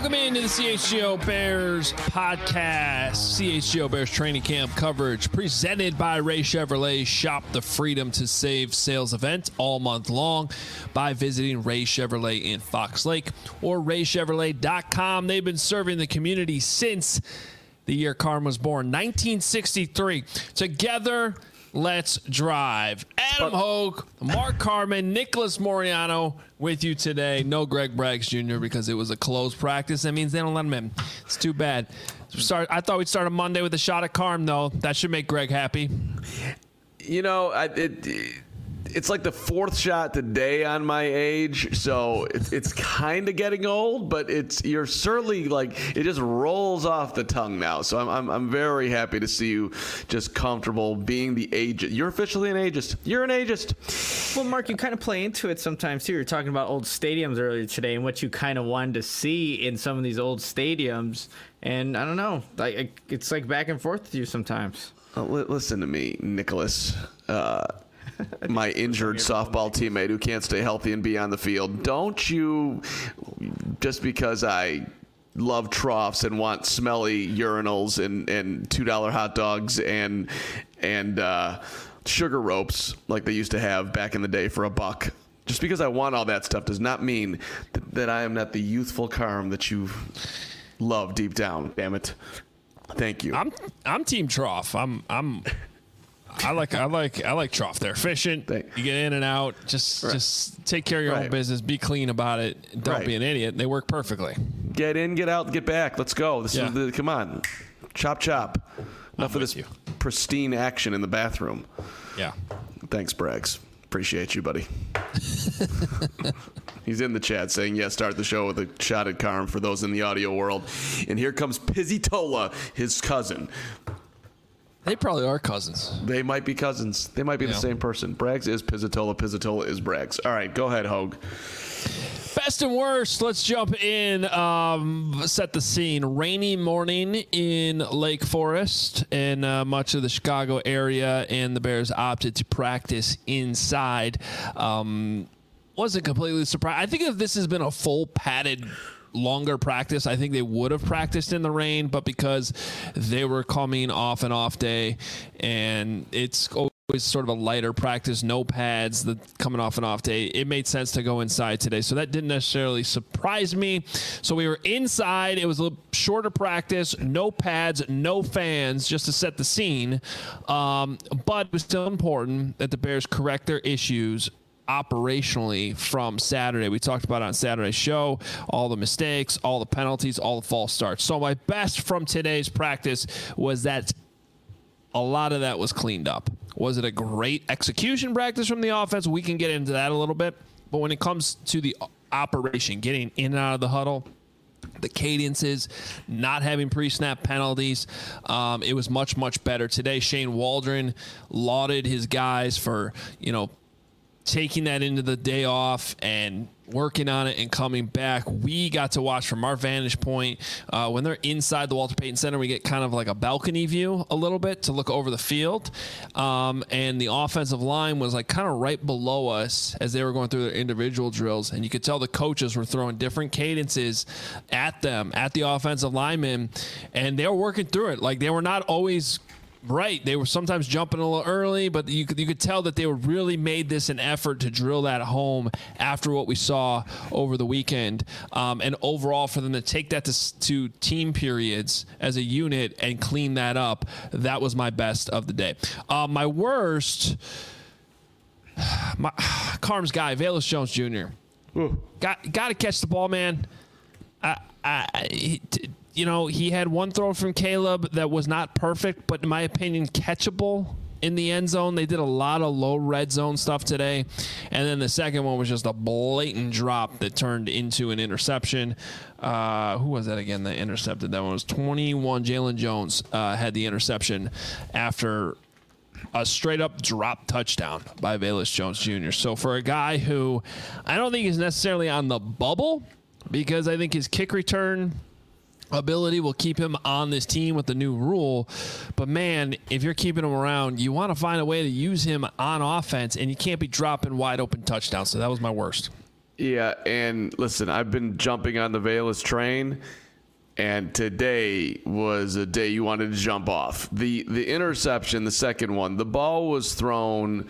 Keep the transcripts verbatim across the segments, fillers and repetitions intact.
Welcome into the C H G O Bears podcast. C H G O Bears training camp coverage presented by Ray Chevrolet. Shop the Freedom to Save sales event all month long by visiting Ray Chevrolet in Fox Lake or ray chevrolet dot com. They've been serving the community since the year Carm was born, nineteen sixty-three. Together, let's drive. Adam Hogue, Mark Carman, Nicholas Moriano with you today. No Greg Braggs Junior because it was a closed practice. That means they don't let him in. It's too bad. Start, I thought we'd start a Monday with a shot at Carm, though. That should make Greg happy. You know, I, it, it's like the fourth shot today on my age, so it, it's kind of getting old, but it's you're certainly like it just rolls off the tongue now. So I'm I'm, I'm very happy to see you just comfortable being the ageist. You're officially an ageist. You're an ageist. Well, Mark, you kind of play into it sometimes too. You're talking about old stadiums earlier today and what you kind of wanted to see in some of these old stadiums, and I don't know, like it's like back and forth with you sometimes. Uh, li- listen to me, Nicholas. Uh, my injured softball teammate who can't stay healthy and be on the field. Don't you, just because I love troughs and want smelly urinals and, and two dollar hot dogs and and uh, sugar ropes like they used to have back in the day for a buck, just because I want all that stuff does not mean that, that I am not the youthful Carm that you love deep down. Damn it. Thank you. I'm I'm team trough. I'm I'm I like I like I like trough. They're efficient. You get in and out. Just right. just take care of your right. own business. Be clean about it. Don't right. be an idiot. They work perfectly. Get in, get out, get back. Let's go. This yeah. is the come on. Chop chop. Enough I'm of this you. pristine action in the bathroom. Yeah. Thanks, Braggs. Appreciate you, buddy. He's in the chat saying, yeah, start the show with a shot at Carm for those in the audio world. And here comes Pizzitola, his cousin. They probably are cousins. They might be cousins. They might be yeah. the same person. Braggs is Pizzitola. Pizzitola is Braggs. All right, go ahead, Hogue. Best and worst. Let's jump in. Um, set the scene. Rainy morning in Lake Forest and uh, much of the Chicago area, and the Bears opted to practice inside. Um, wasn't completely surprised. I think if this has been a full padded longer practice, I think they would have practiced in the rain, but because they were coming off an off day and it's always sort of a lighter practice, no pads, the coming off an off day, it made sense to go inside today. So that didn't necessarily surprise me. So we were inside. It was a little shorter practice, no pads, no fans, just to set the scene. Um, but it was still important that the Bears correct their issues operationally from Saturday. We talked about it on Saturday's show, all the mistakes, all the penalties, all the false starts. So my best from today's practice was that a lot of that was cleaned up. Was it a great execution practice from the offense? We can get into that a little bit. But when it comes to the operation, getting in and out of the huddle, the cadences, not having pre-snap penalties, um, it was much, much better today. Shane Waldron lauded his guys for, you know, taking that into the day off and working on it and coming back. We got to watch from our vantage point. Uh, when they're inside the Walter Payton Center, we get kind of like a balcony view a little bit to look over the field. Um, and the offensive line was like kind of right below us as they were going through their individual drills. And you could tell the coaches were throwing different cadences at them, at the offensive linemen. And they were working through it. Like they were not always right. They were sometimes jumping a little early, but you could, you could tell that they were really made this an effort to drill that home after what we saw over the weekend. Um, and overall, for them to take that to, to team periods as a unit and clean that up, that was my best of the day. Uh, my worst, my Carm's guy, Velus Jones Junior Ooh. Got got to catch the ball, man. I, I, he, t- You know, he had one throw from Caleb that was not perfect, but in my opinion, catchable in the end zone. They did a lot of low red zone stuff today. And then the second one was just a blatant drop that turned into an interception. Uh, who was that again that intercepted? That one was twenty-one. Jalen Jones uh, had the interception after a straight-up drop touchdown by Velus Jones Junior So for a guy who I don't think is necessarily on the bubble, because I think his kick return ability will keep him on this team with the new rule. But, man, if you're keeping him around, you want to find a way to use him on offense, and you can't be dropping wide-open touchdowns. So that was my worst. Yeah, and listen, I've been jumping on the Velus train, and today was a day you wanted to jump off. The the interception, the second one, the ball was thrown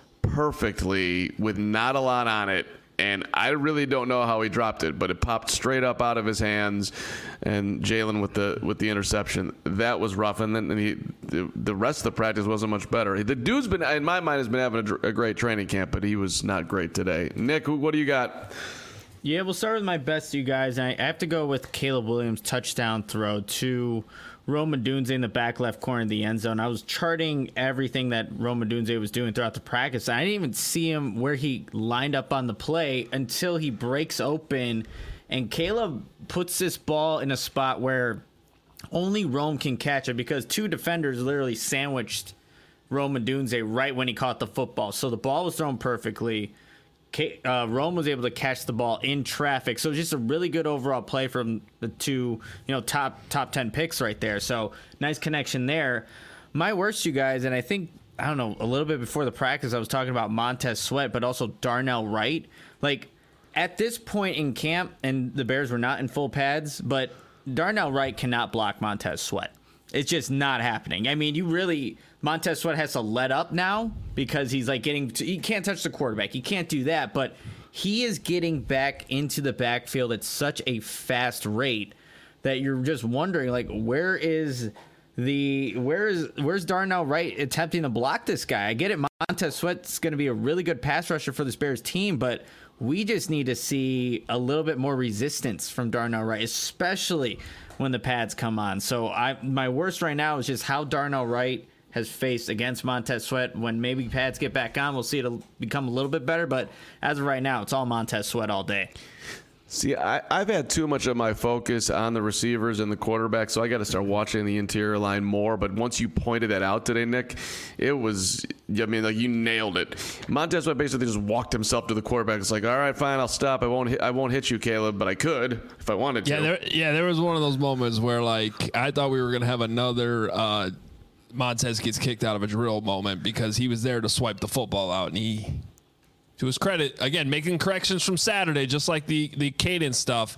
perfectly with not a lot on it, and I really don't know how he dropped it, but it popped straight up out of his hands, and Jalen with the with the interception. That was rough, and then and he, the, the rest of the practice wasn't much better. The dude's been, in my mind, has been having a, a great training camp, but he was not great today. Nick, what do you got? Yeah, we'll start with my best, you guys. I have to go with Caleb Williams' touchdown throw to Rome Odunze in the back left corner of the end zone. I was charting everything that Rome Odunze was doing throughout the practice. I didn't even see him where he lined up on the play until he breaks open, and Caleb puts this ball in a spot where only Rome can catch it because two defenders literally sandwiched Rome Odunze right when he caught the football. So the ball was thrown perfectly. Uh, Rome was able to catch the ball in traffic, so just a really good overall play from the two, you know, top top ten picks right there. So nice connection there. My worst, you guys, and I think I don't know a little bit before the practice, I was talking about Montez Sweat, but also Darnell Wright. Like at this point in camp, and the Bears were not in full pads, but Darnell Wright cannot block Montez Sweat. It's just not happening. I mean, you really Montez Sweat has to let up now because he's like getting to, he can't touch the quarterback. He can't do that, but he is getting back into the backfield at such a fast rate that you're just wondering, like, where is the where is where's Darnell Wright attempting to block this guy? I get it, Montez Sweat's going to be a really good pass rusher for this Bears team, but we just need to see a little bit more resistance from Darnell Wright, especially when the pads come on. So I my worst right now is just how Darnell Wright has faced against Montez Sweat. When maybe pads get back on, we'll see it'll become a little bit better, but as of right now, it's all Montez Sweat all day. See, I, I've had too much of my focus on the receivers and the quarterback, so I got to start watching the interior line more. But once you pointed that out today, Nick, it was, I mean, like you nailed it. Montez Sweat basically just walked himself to the quarterback. It's like, all right, fine, I'll stop. I won't hit, I won't hit you, Caleb, but I could if I wanted to. Yeah, there, yeah, there was one of those moments where, like, I thought we were going to have another uh, Montez gets kicked out of a drill moment because he was there to swipe the football out, and he... To his credit, again, making corrections from Saturday, just like the, the cadence stuff.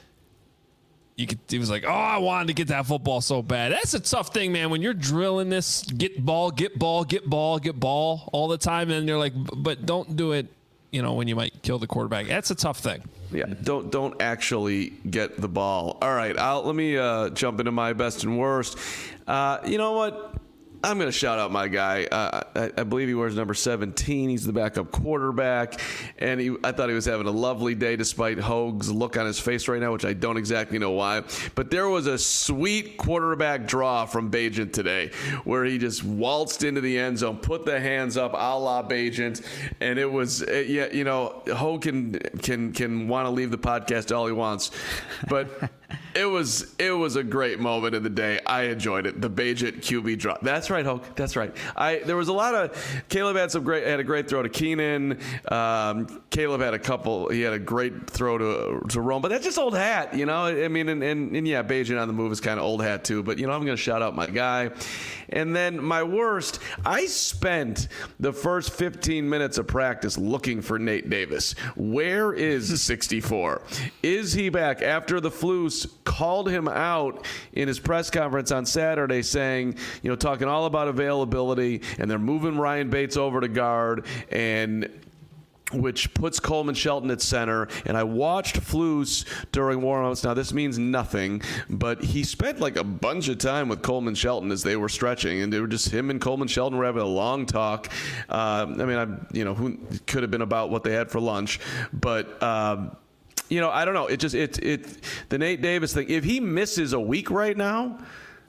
You could, he was like, oh, I wanted to get that football so bad. That's a tough thing, man. When you're drilling this, get ball, get ball, get ball, get ball all the time, and you're like, but don't do it, you know, when you might kill the quarterback. That's a tough thing. Yeah, don't don't actually get the ball. All right, I'll, let me uh, jump into my best and worst. Uh, you know what? I'm going to shout out my guy. Uh, I, I believe he wears number seventeen. He's the backup quarterback, and he, I thought he was having a lovely day despite Hogue's look on his face right now, which I don't exactly know why. But there was a sweet quarterback draw from Bagent today where he just waltzed into the end zone, put the hands up a la Bagent, and it was, uh, yeah, you know, Hogue can, can, can want to leave the podcast all he wants, but... It was it was a great moment of the day. I enjoyed it. The Bagent Q B drop. That's right, Hoke. That's right. I there was a lot of Caleb had some great had a great throw to Keenan. Um, Caleb had a couple. He had a great throw to to Rome, but that's just old hat, you know. I mean, and and, and yeah, Bagent on the move is kind of old hat too. But you know, I'm going to shout out my guy. And then my worst, I spent the first fifteen minutes of practice looking for Nate Davis. Where is sixty-four? Is he back? After the Flus called him out in his press conference on Saturday saying, you know, talking all about availability, and they're moving Ryan Bates over to guard, and which puts Coleman Shelton at center. And I watched Flus during warm-ups. Now, this means nothing, but he spent like a bunch of time with Coleman Shelton as they were stretching, and they were just him and Coleman Shelton were having a long talk. Uh, I mean, I, you know, who could have been about what they had for lunch, but. Um, You know, I don't know. It just it it the Nate Davis thing. If he misses a week right now,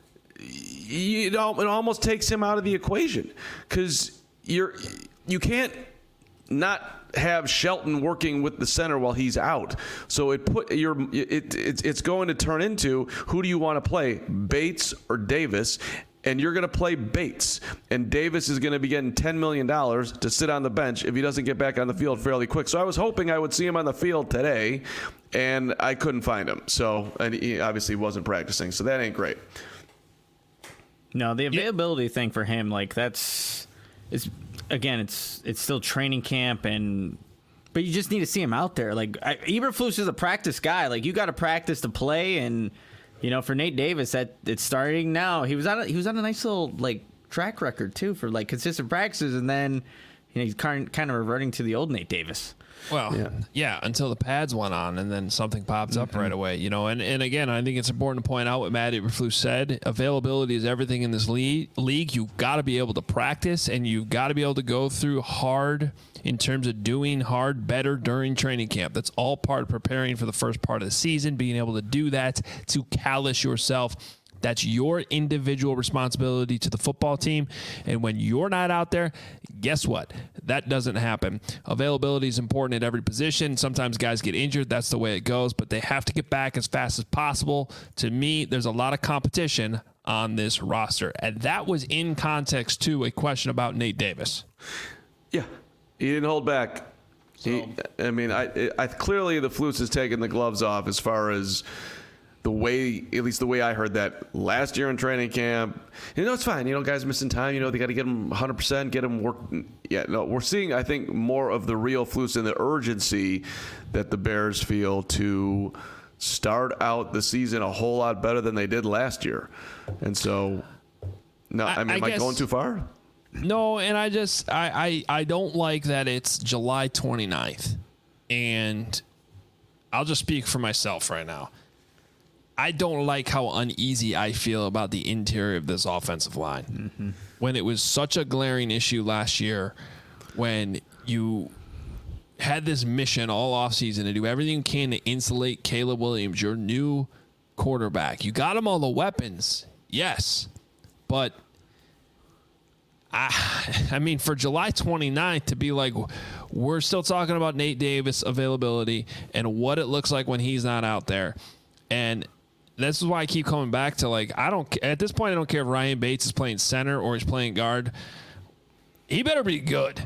you know, it almost takes him out of the equation because you're you can't not have Shelton working with the center while he's out. So it put your it, it it's going to turn into who do you want to play, Bates or Davis? And you're going to play Bates. And Davis is going to be getting ten million dollars to sit on the bench if he doesn't get back on the field fairly quick. So I was hoping I would see him on the field today, and I couldn't find him. So, and he obviously wasn't practicing. So that ain't great. No, the availability yeah. thing for him, like that's, it's again, it's it's still training camp, and But you just need to see him out there. Like I, Eberflus is a practice guy. Like you got to practice to play, and you know, for Nate Davis, that it's starting now. He was on a, he was on a nice little like track record too for like consistent practices, and then you know he's kind kind of reverting to the old Nate Davis. Well, yeah. yeah, until the pads went on, and then something popped up mm-hmm. right away. You know, and, and again, I think it's important to point out what Matt Eberflus said. Availability is everything in this league. League, you've got to be able to practice, and you've got to be able to go through hard in terms of doing hard better during training camp. That's all part of preparing for the first part of the season, being able to do that, to callous yourself. That's your individual responsibility to the football team. And when you're not out there, guess what? That doesn't happen. Availability is important at every position. Sometimes guys get injured. That's the way it goes. But they have to get back as fast as possible. To me, there's a lot of competition on this roster. And that was in context to a question about Nate Davis. Yeah, he didn't hold back. So. He, I mean, I, I clearly the Flus has taken the gloves off as far as the way, at least the way I heard that last year in training camp. You know, it's fine. You know, guys missing time. You know, they got to get them one hundred percent, get them work. Yeah, no, we're seeing, I think, more of the real Flus and the urgency that the Bears feel to start out the season a whole lot better than they did last year. And so, no, I, I mean, I am I going too far? No, and I just, I, I, I don't like that it's July twenty-ninth. And I'll just speak for myself right now. I don't like how uneasy I feel about the interior of this offensive line. Mm-hmm. When it was such a glaring issue last year, when you had this mission all offseason to do everything you can to insulate Caleb Williams, your new quarterback. You got him all the weapons, yes. But, I, I mean, for July twenty-ninth to be like, we're still talking about Nate Davis availability and what it looks like when he's not out there. And this is why I keep coming back to, like, I don't, at this point, I don't care if Ryan Bates is playing center or he's playing guard. He better be good.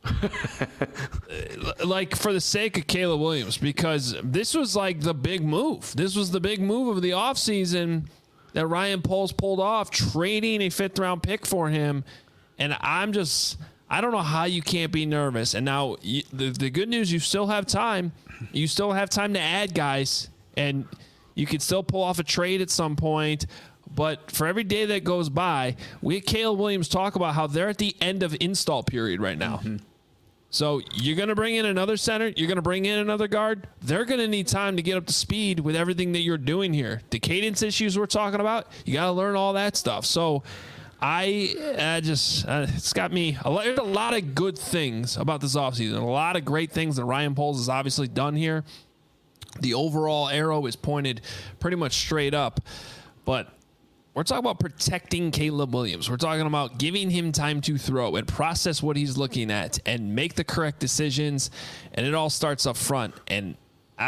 Like, for the sake of Caleb Williams, because this was like the big move. This was the big move of the offseason that Ryan Poles pulled off, trading a fifth round pick for him. And I'm just, I don't know how you can't be nervous. And now you, the, the good news, you still have time. You still have time to add guys, and you could still pull off a trade at some point. But for every day that goes by, we had Caleb Williams talk about how they're at the end of install period right now. Mm-hmm. So you're going to bring in another center. You're going to bring in another guard. They're going to need time to get up to speed with everything that you're doing here. The cadence issues we're talking about, you got to learn all that stuff. So I, I just, uh, it's got me, a lot, there's a lot of good things about this offseason. A lot of great things that Ryan Poles has obviously done here. The overall arrow is pointed pretty much straight up. But we're talking about protecting Caleb Williams. We're talking about giving him time to throw and process what he's looking at and make the correct decisions. And it all starts up front. And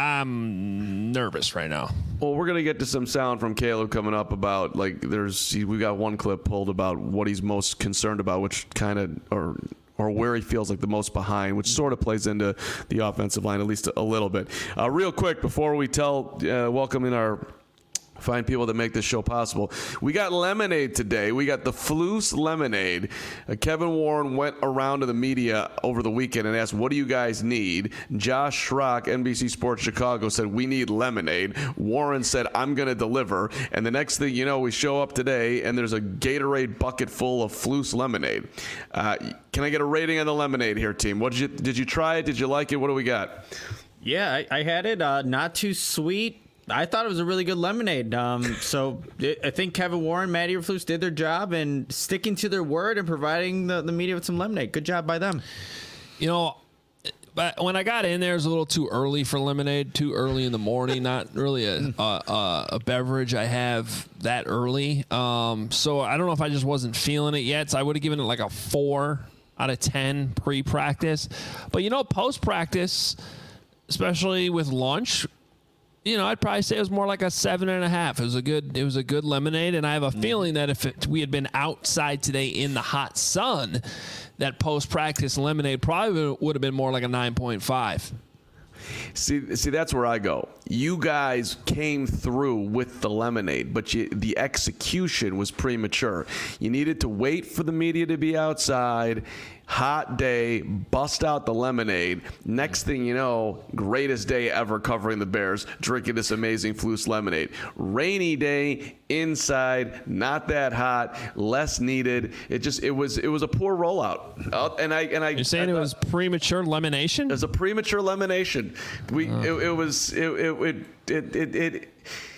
I'm nervous right now. Well, we're going to get to some sound from Caleb coming up about, like, there's, we got one clip pulled about what he's most concerned about, which kind of, or or where he feels like the most behind, which sort of plays into the offensive line, at least a, a little bit. Uh, real quick, before we tell, uh, welcome in our fine people that make this show possible. We got lemonade today. We got the Flus lemonade. Uh, Kevin Warren went around to the media over the weekend and asked, what do you guys need? Josh Schrock, N B C Sports Chicago, said, we need lemonade. Warren said, I'm going to deliver. And the next thing you know, we show up today and there's a Gatorade bucket full of Flus lemonade. Uh, can I get a rating on the lemonade here, team? What did you, did you try it? Did you like it? What do we got? Yeah, I, I had it. Uh, not too sweet. I thought it was a really good lemonade. Um, so it, I think Kevin Warren, Matt Eberflus did their job and sticking to their word and providing the, the media with some lemonade. Good job by them. You know, but when I got in there, it was a little too early for lemonade, too early in the morning. Not really a, a, a beverage I have that early. Um, so I don't know if I just wasn't feeling it yet. So I would have given it like a four out of ten pre-practice. But, you know, post-practice, especially with lunch, you know, I'd probably say it was more like a seven and a half. It was a good, it was a good lemonade, and I have a mm. feeling that if it, we had been outside today in the hot sun, that post-practice lemonade probably would have been more like a nine point five. See, see, that's where I go. You guys came through with the lemonade, but you, the execution was premature. You needed to wait for the media to be outside. hot day, bust out the lemonade. Next thing you know, greatest day ever covering the Bears, drinking this amazing Flus lemonade. Rainy day, inside, not that hot, less needed. It just it was it was a poor rollout. Uh, and I and I You're saying I, it was premature lemonation? It was a premature lemonation. We uh. it, it was it it it it. it, it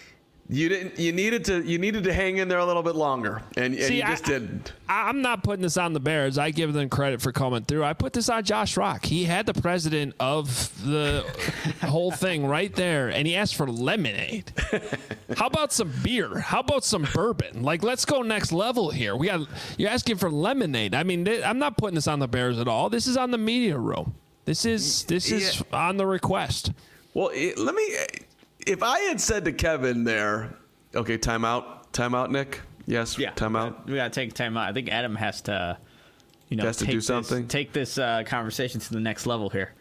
You didn't. You needed to. You needed to hang in there a little bit longer, and, and See, you just I, didn't. I'm not putting this on the Bears. I give them credit for coming through. I put this on Josh Rock. He had the president of the whole thing right there, and he asked for lemonade. How about some beer? How about some bourbon? Like, let's go next level here. We got. You're asking for lemonade. I mean, th- I'm not putting this on the Bears at all. This is on the media room. This is this is yeah. on the request. Well, it, let me. If I had said to Kevin there, okay, timeout, timeout, Nick. Yes, yeah, timeout. We gotta take time out. I think Adam has to, you know, has to take do something. This, take this uh, conversation to the next level here.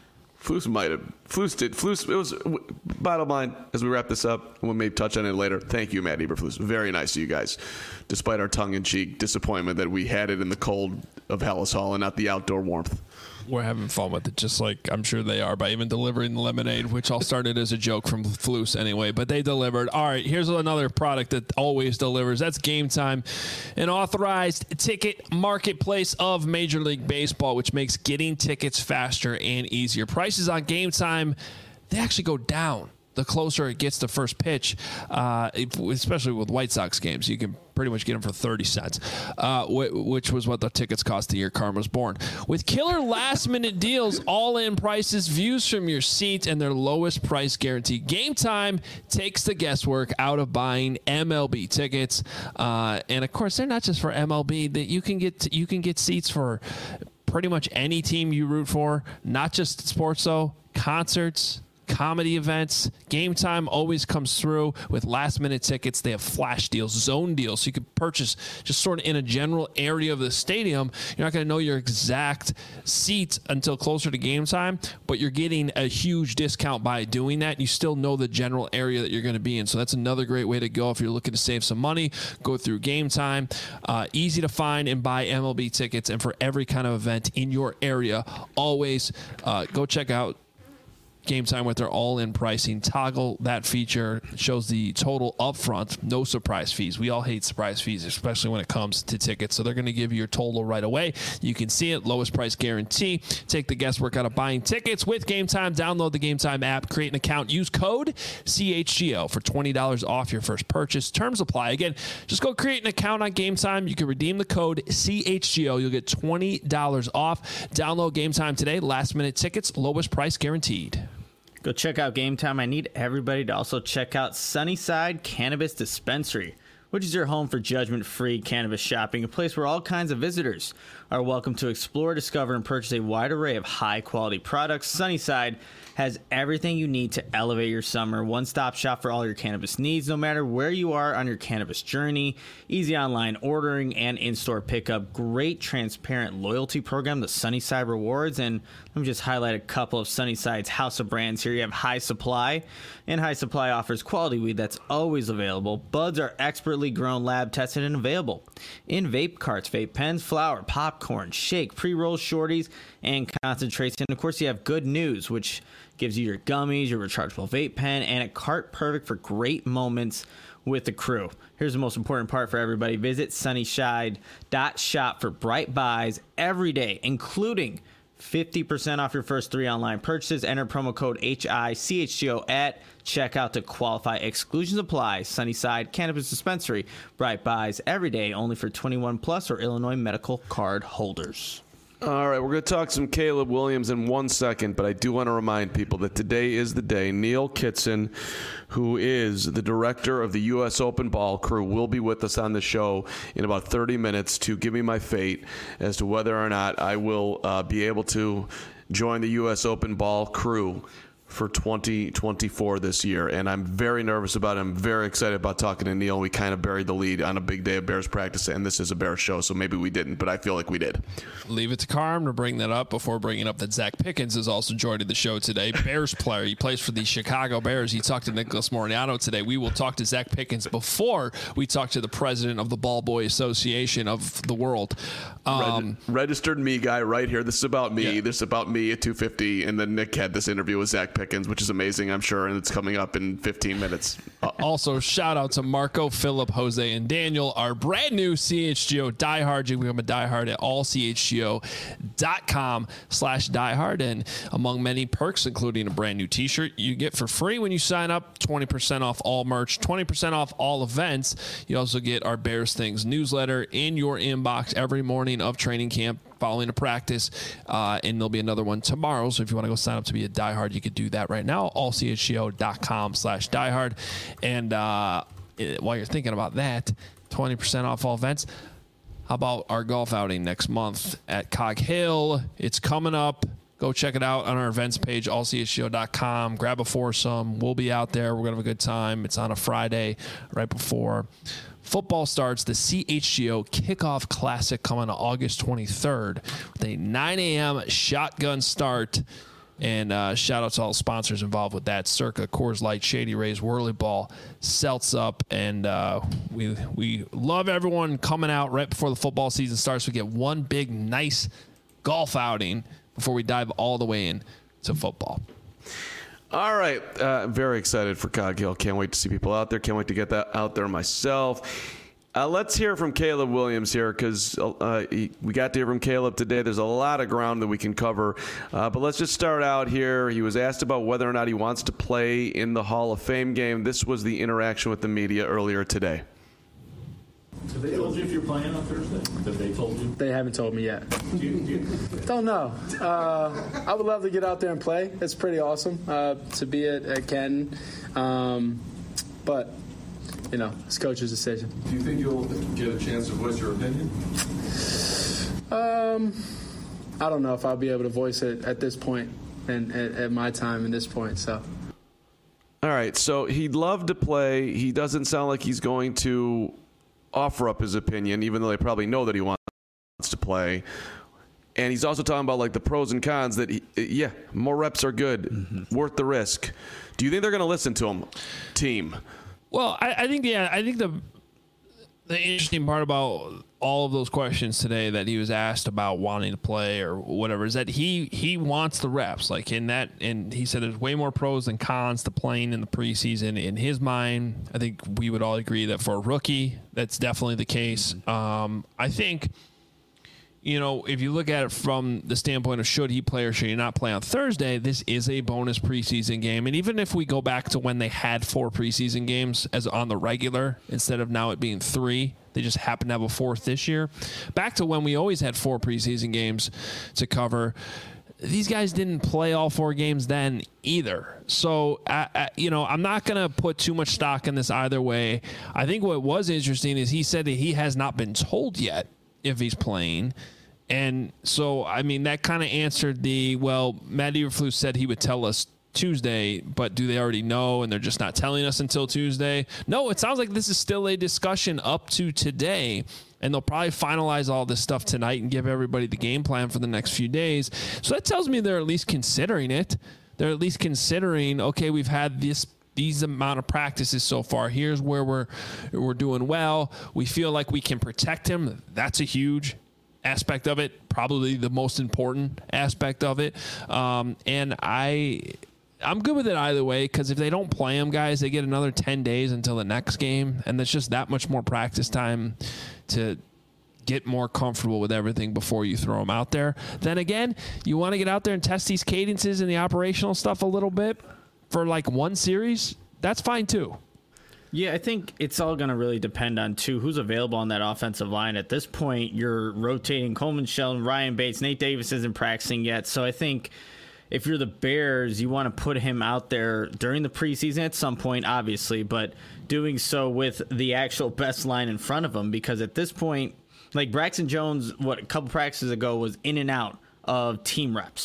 Flus might have. Flus did. Flus. It was. Bottom line, as we wrap this up, we'll maybe touch on it later. Thank you, Matt Eberflus. Very nice of you guys, despite our tongue-in-cheek disappointment that we had it in the cold of Hallis Hall and not the outdoor warmth. We're having fun with it, just like I'm sure they are, by even delivering the lemonade, which all started as a joke from Flus anyway, but they delivered. All right, here's another product that always delivers. That's Game Time, an authorized ticket marketplace of Major League Baseball, which makes getting tickets faster and easier. Prices on Game Time, they actually go down the closer it gets to first pitch, uh, especially with White Sox games. You can pretty much get them for thirty cents, uh, which was what the tickets cost the year Karma was born. With killer last-minute deals, all-in prices, views from your seat, and their lowest price guarantee, Game Time takes the guesswork out of buying M L B tickets. Uh, and, of course, they're not just for M L B. That you can get you can get seats for pretty much any team you root for, not just sports, though, concerts, comedy events. Game Time always comes through with last minute tickets. They have flash deals, zone deals, so you can purchase just sort of in a general area of the stadium. You're not going to know your exact seat until closer to game time, but you're getting a huge discount by doing that. You still know the general area that you're going to be in, so that's another great way to go if you're looking to save some money. Go through Game Time. Uh, easy to find and buy M L B tickets, and for every kind of event in your area, always uh, go check out Game Time with their all-in pricing. Toggle that feature. It shows the total upfront, no surprise fees. We all hate surprise fees, especially when it comes to tickets. So they're going to give you your total right away. You can see it, lowest price guarantee. Take the guesswork out of buying tickets with Game Time. Download the Game Time app, create an account, use code C H G O for twenty dollars off your first purchase. Terms apply. Again, just go create an account on Game Time. You can redeem the code C H G O. You'll get twenty dollars off. Download Game Time today. Last minute tickets, lowest price guaranteed. Go check out Game Time. I need everybody to also check out Sunnyside Cannabis Dispensary, which is your home for judgment-free cannabis shopping, a place where all kinds of visitors are welcome to explore, discover, and purchase a wide array of high-quality products. Sunnyside has everything you need to elevate your summer. One-stop shop for all your cannabis needs, no matter where you are on your cannabis journey. Easy online ordering and in-store pickup. Great transparent loyalty program, the Sunnyside Rewards. And let me just highlight a couple of Sunnyside's house of brands here. You have High Supply, and High Supply offers quality weed that's always available. Buds are expertly grown, lab tested, and available in vape carts, vape pens, flower, popcorn, shake, pre-roll shorties, and concentrates. And of course, you have Good News, which gives you your gummies, your rechargeable vape pen, and a cart perfect for great moments with the crew. Here's the most important part for everybody. Visit sunnyside dot shop for bright buys every day, including fifty percent off your first three online purchases. Enter promo code H I C H G O at checkout to qualify. Exclusions apply. Sunnyside Cannabis Dispensary. Bright buys every day, only for twenty-one plus or Illinois medical card holders. All right, we're going to talk some Caleb Williams in one second, but I do want to remind people that today is the day. Neil Kitson, who is the director of the U S Open Ball crew, will be with us on the show in about thirty minutes to give me my fate as to whether or not I will uh, be able to join the U S Open Ball crew for twenty twenty-four this year, and I'm very nervous about it. I'm very excited about talking to Neil. We kind of buried the lead on a big day of Bears practice, and this is a Bears show, so maybe we didn't, but I feel like we did. Leave it to Carm to bring that up before bringing up that Zach Pickens is also joining the show today. Bears player. He plays for the Chicago Bears. He talked to Nicholas Moriano today. We will talk to Zach Pickens before we talk to the president of the Ball Boy Association of the world. Um, Reg- registered me guy right here. This is about me. Yeah. This is about me at two fifty, and then Nick had this interview with Zach Pickens, which is amazing, I'm sure, and it's coming up in fifteen minutes. Uh, Also, shout out to Marco, Philip, Jose, and Daniel, our brand new C H G O diehard. You can become a diehard at all c h g o dot com slash diehard. And among many perks, including a brand new t-shirt you get for free when you sign up, twenty percent off all merch, twenty percent off all events. You also get our Bears Things newsletter in your inbox every morning of training camp following a practice, uh, and there'll be another one tomorrow. So if you want to go sign up to be a diehard, you could do that right now, all c h g o dot com slash diehard. And uh, it, while you're thinking about that, twenty percent off all events. How about our golf outing next month at Cog Hill? It's coming up. Go check it out on our events page, all c h g o dot com. Grab a foursome. We'll be out there. We're going to have a good time. It's on a Friday right before football starts. The C H G O Kickoff Classic coming on August twenty-third with a nine a.m. shotgun start. And uh, shout out to all the sponsors involved with that: Circa, Coors Light, Shady Rays, Whirly Ball, Seltz Up, and uh, we we love everyone coming out right before the football season starts. We get one big, nice golf outing before we dive all the way in to football. All right. Uh, very excited for Cog Hill. Can't wait to see people out there. Can't wait to get that out there myself. Uh, let's hear from Caleb Williams here, because uh, we got to hear from Caleb today. There's a lot of ground that we can cover. Uh, but let's just start out here. He was asked about whether or not he wants to play in the Hall of Fame game. This was the interaction with the media earlier today. Have they told you if you're playing on Thursday? Have they told you? They haven't told me yet. Do you, do you? Don't know. Uh, I would love to get out there and play. It's pretty awesome uh, to be at, at Canton. Um, but, you know, it's coach's decision. Do you think you'll get a chance to voice your opinion? Um, I don't know if I'll be able to voice it at this point and at, at my time and this point. So. All right. So he'd love to play. He doesn't sound like he's going to offer up his opinion, even though they probably know that he wants to play. And he's also talking about like the pros and cons that, he, yeah, more reps are good, mm-hmm. worth the risk. Do you think they're going to listen to him, team? Well, I, I think, yeah, I think the the interesting part about all of those questions today that he was asked about wanting to play or whatever is that he he wants the reps. Like in that, and he said there's way more pros than cons to playing in the preseason. In his mind, I think we would all agree that for a rookie, that's definitely the case. Mm-hmm. Um, I think, you know, if you look at it from the standpoint of should he play or should he not play on Thursday, this is a bonus preseason game. And even if we go back to when they had four preseason games as on the regular, instead of now it being three, they just happen to have a fourth this year. Back to when we always had four preseason games to cover, these guys didn't play all four games then either. So, I, I, you know, I'm not going to put too much stock in this either way. I think what was interesting is he said that he has not been told yet if he's playing. And so, I mean, that kind of answered the, well, Matt Eberflus said he would tell us Tuesday, but do they already know and they're just not telling us until Tuesday? No, it sounds like this is still a discussion up to today, and they'll probably finalize all this stuff tonight and give everybody the game plan for the next few days. So that tells me they're at least considering it. They're at least considering, okay, we've had this these amount of practices so far. Here's where we're we're doing well. We feel like we can protect him. That's a huge aspect of it, probably the most important aspect of it. Um, and I, I'm good with it either way, because if they don't play him, guys, they get another ten days until the next game, and that's just that much more practice time to get more comfortable with everything before you throw them out there. Then again, you want to get out there and test these cadences and the operational stuff a little bit for like one series, that's fine too. Yeah, I think it's all going to really depend on, too, who's available on that offensive line. At this point, you're rotating Coleman Shelton, Ryan Bates, Nate Davis isn't practicing yet. So I think if you're the Bears, you want to put him out there during the preseason at some point, obviously, but doing so with the actual best line in front of him, because at this point, like Braxton Jones, what, a couple practices ago was in and out of team reps.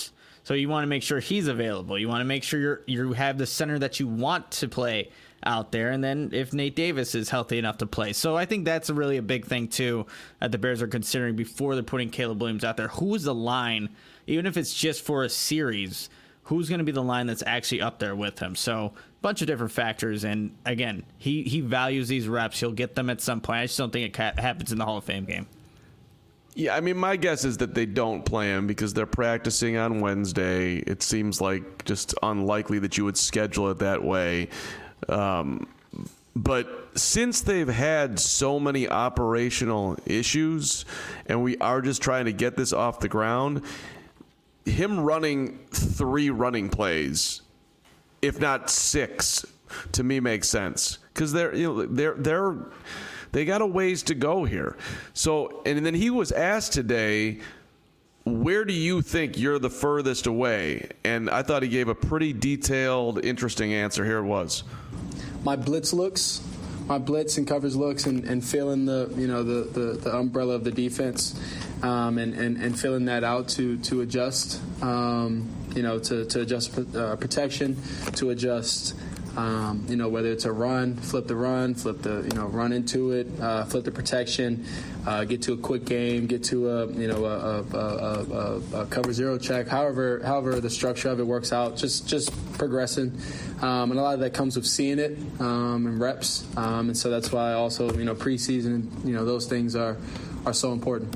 So you want to make sure he's available. You want to make sure you're, you have the center that you want to play out there, and then if Nate Davis is healthy enough to play. So I think that's really a big thing too that the Bears are considering before they're putting Caleb Williams out there. Who is the line, even if it's just for a series, who's going to be the line that's actually up there with him? So a bunch of different factors, and again, he, he values these reps. He'll get them at some point. I just don't think it ca- happens in the Hall of Fame game. Yeah, I mean, my guess is that they don't play him because they're practicing on Wednesday. It seems like just unlikely that you would schedule it that way. Um, but since they've had so many operational issues and we are just trying to get this off the ground, him running three running plays, if not six, to me makes sense because they're, you know, they're, they're, they got a ways to go here. So, and then he was asked today, where do you think you're the furthest away? And I thought he gave a pretty detailed, interesting answer. Here it was. My blitz looks, my blitz and coverage looks, and, and feeling the you know the, the, the umbrella of the defense, um, and, and, and filling that out to to adjust, um, you know, to to adjust uh, protection, to adjust. Um, you know, whether it's a run, flip the run, flip the, you know, run into it, uh, flip the protection, uh, get to a quick game, get to a, you know, a, a, a, a, a cover zero check, however, however the structure of it works out, just, just progressing. Um, and a lot of that comes with seeing it, um, and reps. Um, and so that's why also, you know, preseason, you know, those things are, are so important.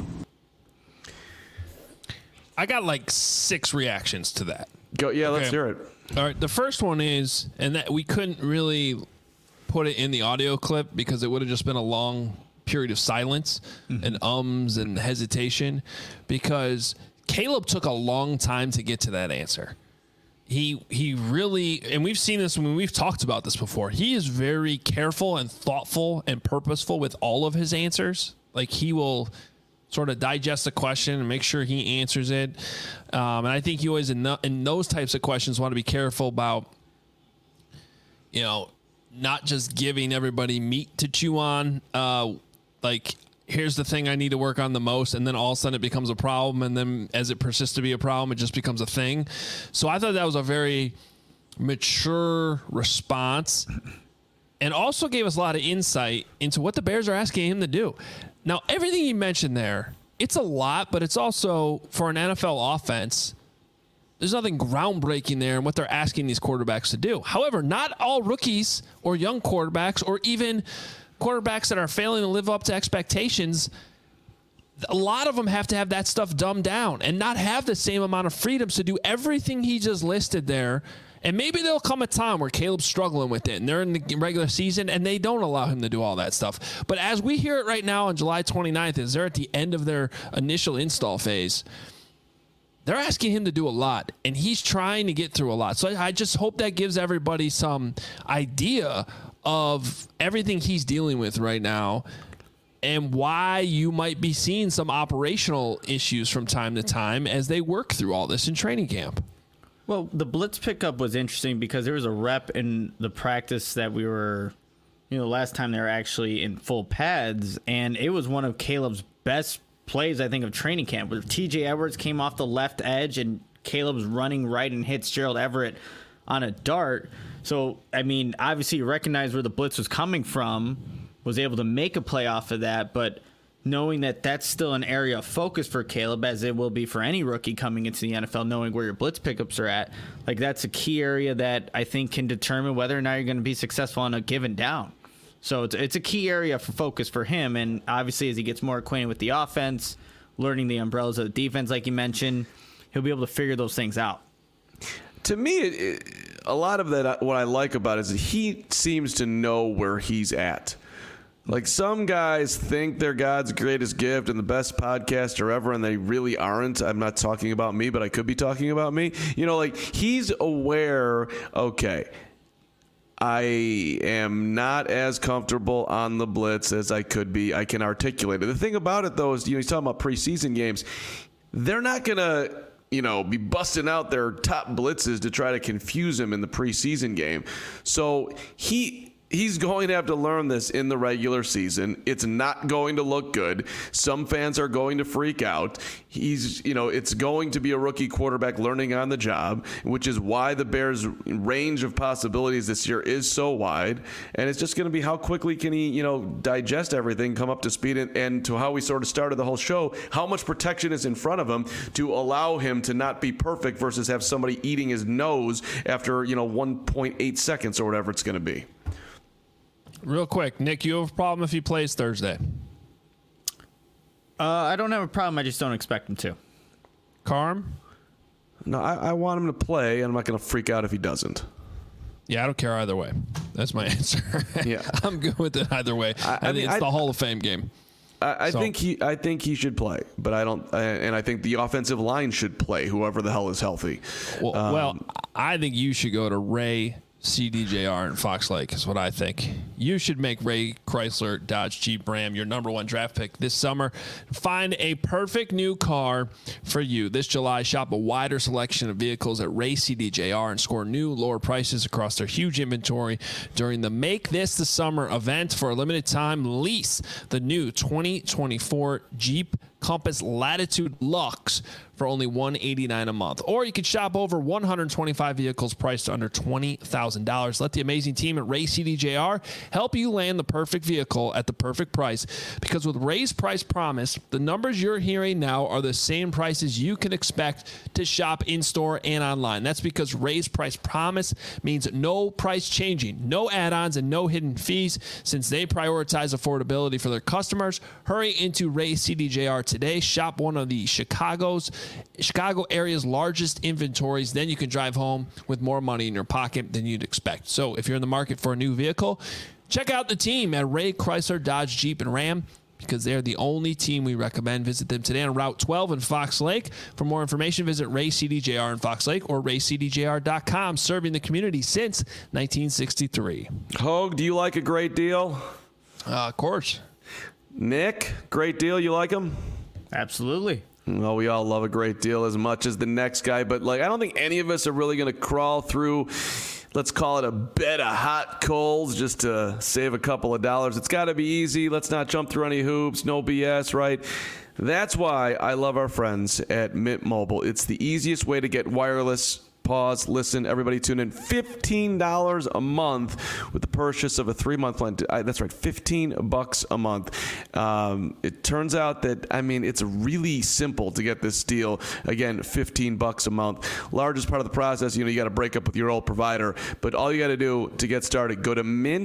I got like six reactions to that. Go, yeah, let's Okay. hear it. All right, the first one is, and that we couldn't really put it in the audio clip because it would have just been a long period of silence mm-hmm. and ums and hesitation because Caleb took a long time to get to that answer. He he really, and we've seen this when we've talked about this before, he is very careful and thoughtful and purposeful with all of his answers. Like he will sort of digest the question and make sure he answers it. Um, and I think you always, in, the, in those types of questions, want to be careful about, you know, not just giving everybody meat to chew on. Uh, like, here's the thing I need to work on the most. And then all of a sudden it becomes a problem. And then as it persists to be a problem, it just becomes a thing. So I thought that was a very mature response and also gave us a lot of insight into what the Bears are asking him to do. Now, everything you mentioned there, it's a lot, but it's also, for an N F L offense, there's nothing groundbreaking there in what they're asking these quarterbacks to do. However, not all rookies or young quarterbacks or even quarterbacks that are failing to live up to expectations, a lot of them have to have that stuff dumbed down and not have the same amount of freedoms to do everything he just listed there. And maybe there'll come a time where Caleb's struggling with it and they're in the regular season and they don't allow him to do all that stuff. But as we hear it right now on July twenty-ninth, as they're at the end of their initial install phase, they're asking him to do a lot and he's trying to get through a lot. So I just hope that gives everybody some idea of everything he's dealing with right now and why you might be seeing some operational issues from time to time as they work through all this in training camp. Well, the blitz pickup was interesting because there was a rep in the practice that we were, you know, last time they were actually in full pads, and it was one of Caleb's best plays, I think, of training camp, where T J Edwards came off the left edge and Caleb's running right and hits Gerald Everett on a dart. So, I mean, obviously you recognize where the blitz was coming from, was able to make a play off of that, but knowing that that's still an area of focus for Caleb, as it will be for any rookie coming into the N F L, knowing where your blitz pickups are at, like that's a key area that I think can determine whether or not you're going to be successful on a given down. So it's it's a key area for focus for him, and obviously as he gets more acquainted with the offense, learning the umbrellas of the defense, like you mentioned, he'll be able to figure those things out. To me, it, it, a lot of that, what I like about it is that he seems to know where he's at. Like some guys think they're God's greatest gift and the best podcaster ever, and they really aren't. I'm not talking about me, but I could be talking about me. You know, like he's aware, okay, I am not as comfortable on the blitz as I could be. I can articulate it. The thing about it, though, is, you know, he's talking about preseason games. They're not going to, you know, be busting out their top blitzes to try to confuse him in the preseason game. So he... He's going to have to learn this in the regular season. It's not going to look good. Some fans are going to freak out. He's, you know, it's going to be a rookie quarterback learning on the job, which is why the Bears' range of possibilities this year is so wide. And it's just going to be how quickly can he, you know, digest everything, come up to speed, and, and to how we sort of started the whole show, how much protection is in front of him to allow him to not be perfect versus have somebody eating his nose after, you know, one point eight seconds or whatever it's going to be. Real quick, Nick, you have a problem if he plays Thursday? Uh, I don't have a problem. I just don't expect him to. Carm? No, I, I want him to play, and I'm not going to freak out if he doesn't. Yeah, I don't care either way. That's my answer. Yeah, I'm good with it either way. I, I, I think mean, it's I, the Hall of Fame game. I, I so. think he. I think he should play, but I don't. And I think the offensive line should play. Whoever the hell is healthy. Well, um, well I think you should go to Ray C D J R and Fox Lake is what I think. You should make Ray Chrysler Dodge Jeep Ram your number one draft pick this summer. Find a perfect new car for you. This July, shop a wider selection of vehicles at Ray C D J R and score new lower prices across their huge inventory during the Make This the Summer event. For a limited time, lease the new twenty twenty-four Jeep Compass Latitude Luxe for only one hundred eighty-nine dollars a month. Or you could shop over one hundred twenty-five vehicles priced under twenty thousand dollars. Let the amazing team at Ray C D J R help you land the perfect vehicle at the perfect price. Because with Ray's Price Promise, the numbers you're hearing now are the same prices you can expect to shop in-store and online. That's because Ray's Price Promise means no price changing, no add-ons, and no hidden fees. Since they prioritize affordability for their customers, hurry into Ray C D J R today. Shop one of the Chicago's Chicago area's largest inventories. Then you can drive home with more money in your pocket than you'd expect. So if you're in the market for a new vehicle, check out the team at Ray Chrysler Dodge Jeep and Ram, because they're the only team we recommend. Visit them today on Route twelve in Fox Lake. For more information, visit Ray C D J R in Fox Lake or ray c d j r dot com, serving the community since nineteen sixty-three. Hogue, do you like a great deal? Uh, of course. Nick, great deal. You like him? Absolutely. Well, we all love a great deal as much as the next guy, but like I don't think any of us are really going to crawl through, let's call it a bed of hot coals just to save a couple of dollars. It's got to be easy. Let's not jump through any hoops. No B S, right? That's why I love our friends at Mint Mobile. It's the easiest way to get wireless. Pause, listen, everybody tune in. fifteen dollars a month with the purchase of a three-month plan. That's right, fifteen bucks a month. Um, it turns out that, I mean, it's really simple to get this deal. Again, fifteen bucks a month. Largest part of the process, you know, you got to break up with your old provider. But all you got to do to get started, go to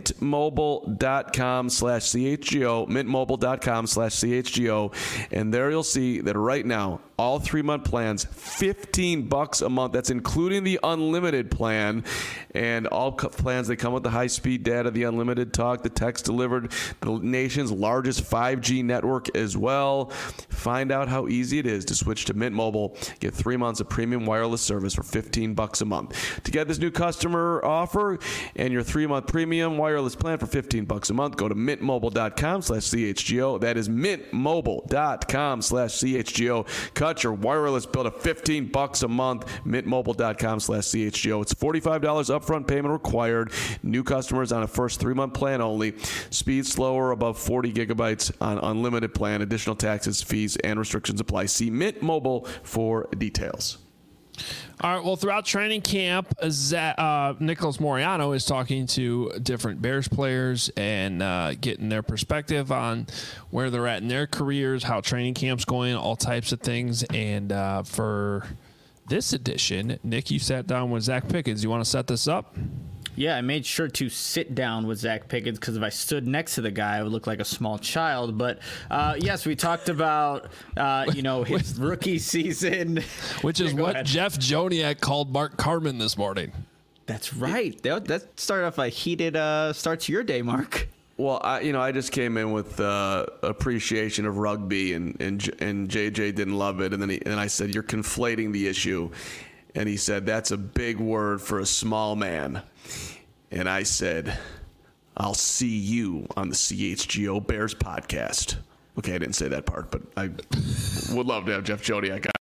mintmobile.com slash CHGO, mintmobile.com slash CHGO, and there you'll see that right now, all three-month plans, fifteen bucks a month. That's including the unlimited plan, and all co- plans that come with the high-speed data, the unlimited talk, the text delivered, the nation's largest five G network as well. Find out how easy it is to switch to Mint Mobile. Get three months of premium wireless service for fifteen bucks a month. To get this new customer offer and your three-month premium wireless plan for fifteen bucks a month, go to mintmobile.com slash CHGO. That is mintmobile.com slash CHGO. Cut your wireless bill to fifteen bucks a month. mintmobile.com slash CHGO. It's forty-five dollars upfront payment required. New customers on a first three-month plan only. Speed slower above forty gigabytes on unlimited plan. Additional taxes, fees, and restrictions apply. See Mint Mobile for details. All right, well, throughout training camp, uh, Nicholas Moreano is talking to different Bears players and uh, getting their perspective on where they're at in their careers, how training camp's going, all types of things. And uh, for this edition, Nick, you sat down with Zach Pickens. You want to set this up? Yeah, I made sure to sit down with Zach Pickens because if I stood next to the guy, I would look like a small child. But uh, yes, we talked about uh, you know his rookie season, which is yeah, what ahead. Jeff Joniak called Mark Carman this morning. That's right. That, that started off a heated uh, start to your day, Mark. Well, I, you know, I just came in with uh, appreciation of rugby, and and and J J didn't love it, and then he, and I said, "You're conflating the issue," and he said, "That's a big word for a small man." And I said, I'll see you on the C H G O Bears podcast. Okay, I didn't say that part, but I would love to have Jeff Joniak on.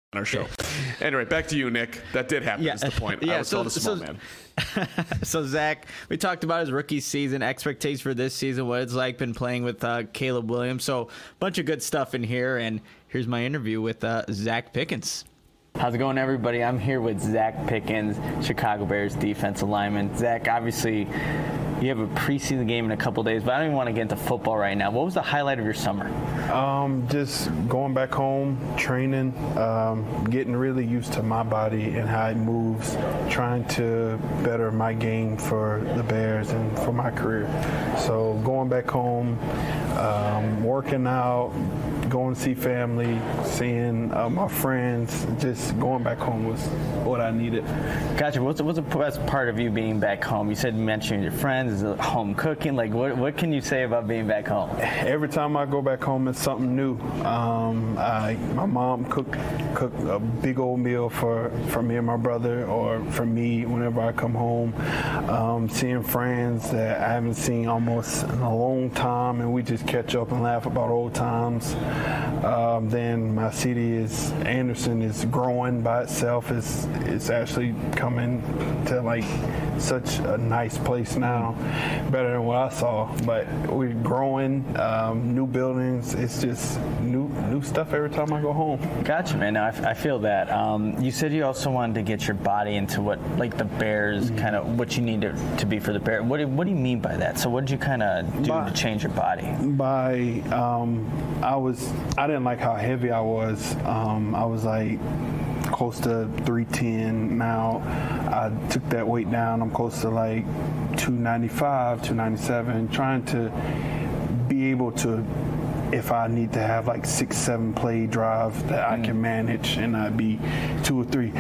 our show. Anyway, back to you, Nick. That did happen. Yeah. Is the point. Yeah, I was so- told a small so- man. So, Zach, we talked about his rookie season, expectations for this season, what it's like been playing with uh, Caleb Williams. So, a bunch of good stuff in here. And here's my interview with uh, Zach Pickens. How's it going, everybody? I'm here with Zach Pickens, Chicago Bears defensive lineman. Zach, obviously, you have a preseason game in a couple days, but I don't even want to get into football right now. What was the highlight of your summer? Um, just going back home, training, um, getting really used to my body and how it moves, trying to better my game for the Bears and for my career. So going back home, um, working out, going to see family, seeing uh, my friends, just going back home was what I needed. Gotcha. What's, what's the best part of you being back home? You said you mentioned your friends, is it home cooking? Like, what, what can you say about being back home? Every time I go back home, it's something new. Um, I, my mom cook cook a big old meal for, for me and my brother, or for me whenever I come home. Um, seeing friends that I haven't seen almost in a long time, and we just catch up and laugh about old times. Um, then my city is Anderson is growing by itself. It's it's actually coming to like such a nice place now, better than what I saw. But we're growing, um, new buildings. It's just new new stuff every time I go home. Gotcha, man. No, I, f- I feel that. Um, you said you also wanted to get your body into what, like the Bears, Mm-hmm. kind of what you need to, to be for the Bears. What do, what do you mean by that? So what did you kind of do By- to change your body? By um, I was I didn't like how heavy I was. Um, I was like close to three ten. Now I took that weight down. I'm close to like two ninety-five, two ninety-seven. Trying to be able to, if I need to have like six, seven play drive that I can manage and not be two or three.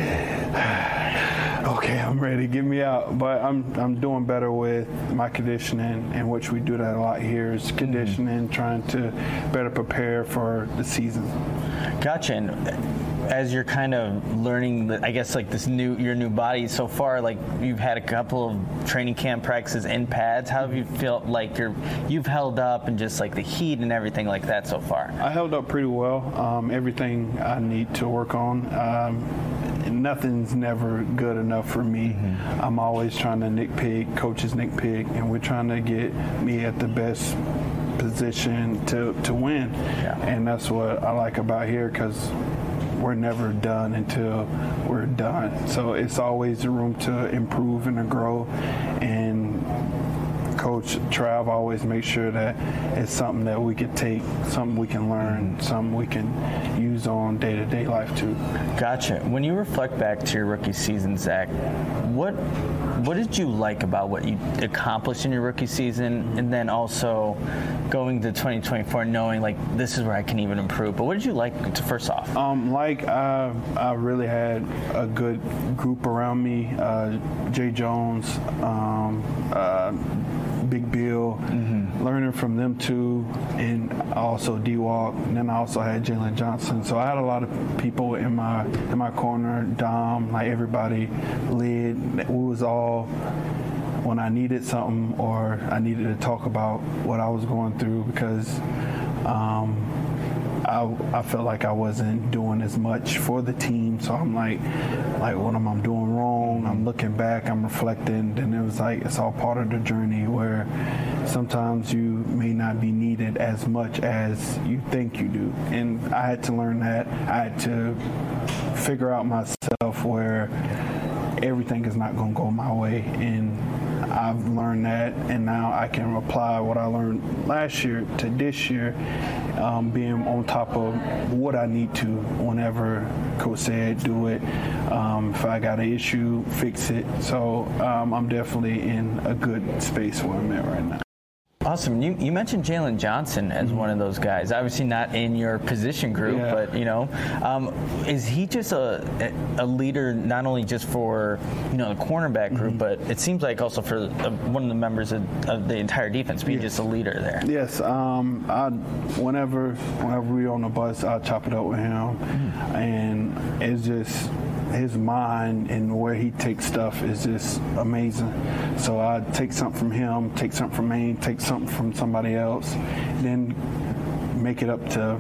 Okay, I'm ready. Get me out. But I'm I'm doing better with my conditioning, and which we do that a lot here is conditioning, trying to better prepare for the season. Gotcha. And as you're kind of learning, the, I guess, like this new your new body so far, like you've had a couple of training camp practices in pads. How have you felt like you're you've held up and just like the heat and everything like that so far? I held up pretty well. Um, everything I need to work on. Um, nothing's never good enough for me. Mm-hmm. I'm always trying to nitpick, coaches nitpick, and we're trying to get me at the best position to, to win. Yeah. And that's what I like about here, because we're never done until we're done. So it's always room to improve and to grow. And Coach Trav always makes sure that it's something that we can take, something we can learn, something we can use on day-to-day life too. Gotcha. When you reflect back to your rookie season, Zach, what what did you like about what you accomplished in your rookie season, and then also going to twenty twenty-four knowing like this is where I can even improve? But what did you like to first off? Um, like I, I really had a good group around me. Uh, Jay Jones, um, uh, Big Bill, mm-hmm. learning from them too, and also D-Walk. And then I also had Jalen Johnson. So I had a lot of people in my in my corner. Dom, like everybody, led. We was all, when I needed something or I needed to talk about what I was going through, because um, I, I felt like I wasn't doing as much for the team. So I'm like, like what am I doing wrong? I'm looking back, I'm reflecting, and it was like it's all part of the journey where sometimes you may not be needed as much as you think you do. And I had to learn that. I had to figure out myself where everything is not going to go my way, and I've learned that, and now I can apply what I learned last year to this year, um, being on top of what I need to whenever Coach said do it. Um, if I got an issue, fix it. So um, I'm definitely in a good space where I'm at right now. Awesome. You, you mentioned Jalen Johnson as one of those guys. Obviously not in your position group, Yeah. but, you know, um, is he just a a leader not only just for, you know, the cornerback group, mm-hmm. but it seems like also for uh, one of the members of, of the entire defense, being Yes. just a leader there? Yes. Um, I whenever whenever we're on the bus, I chop it up with him, mm-hmm. and it's just his mind and where he takes stuff is just amazing. So I take something from him, take something from me, take something from somebody else, then make it up to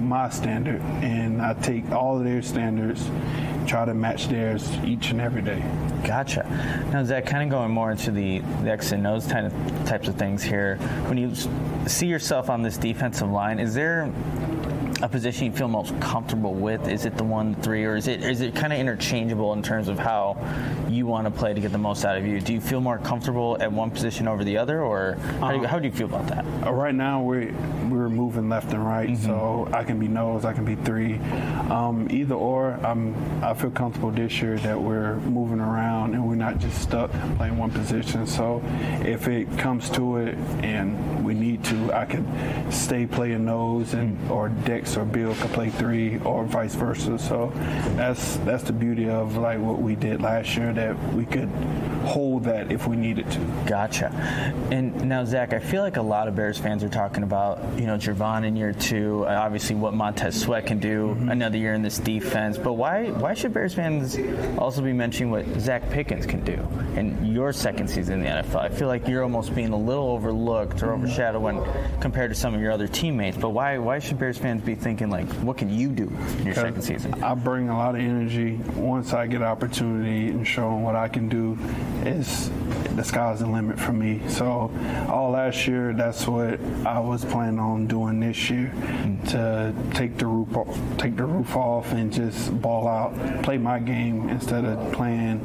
my standard, and I take all of their standards, try to match theirs each and every day. Gotcha. Now, Zach, kind of going more into the, the X and O's kind of types of things here. When you see yourself on this defensive line, is there a position you feel most comfortable with? Is it the one, three, or is it is it kind of interchangeable in terms of how you want to play to get the most out of you? Do you feel more comfortable at one position over the other, or how do you, how do you feel about that? Right now, we're we're moving left and right, mm-hmm. so I can be nose, I can be three, um, either or. I'm I feel comfortable this year that we're moving around and we're not just stuck playing one position. So if it comes to it and we need to, I could stay playing nose and mm-hmm. or Dex or Bill could play three, or vice versa. So that's that's the beauty of like what we did last year, that we could hold that if we needed to. Gotcha. And now, Zach, I feel like a lot of Bears fans are talking about, you know, Gervon in year two, obviously what Montez Sweat can do, mm-hmm. another year in this defense. But why why should Bears fans also be mentioning what Zach Pickens can do in your second season in the N F L? I feel like you're almost being a little overlooked or overshadowed when compared to some of your other teammates. But why why should Bears fans be thinking, like, what can you do in your second season? I bring a lot of energy. Once I get an opportunity and show them what I can do, is the sky's the limit for me. So all last year, that's what I was planning on doing this year, mm-hmm. to take the roof off, take the roof off and just ball out, play my game instead of playing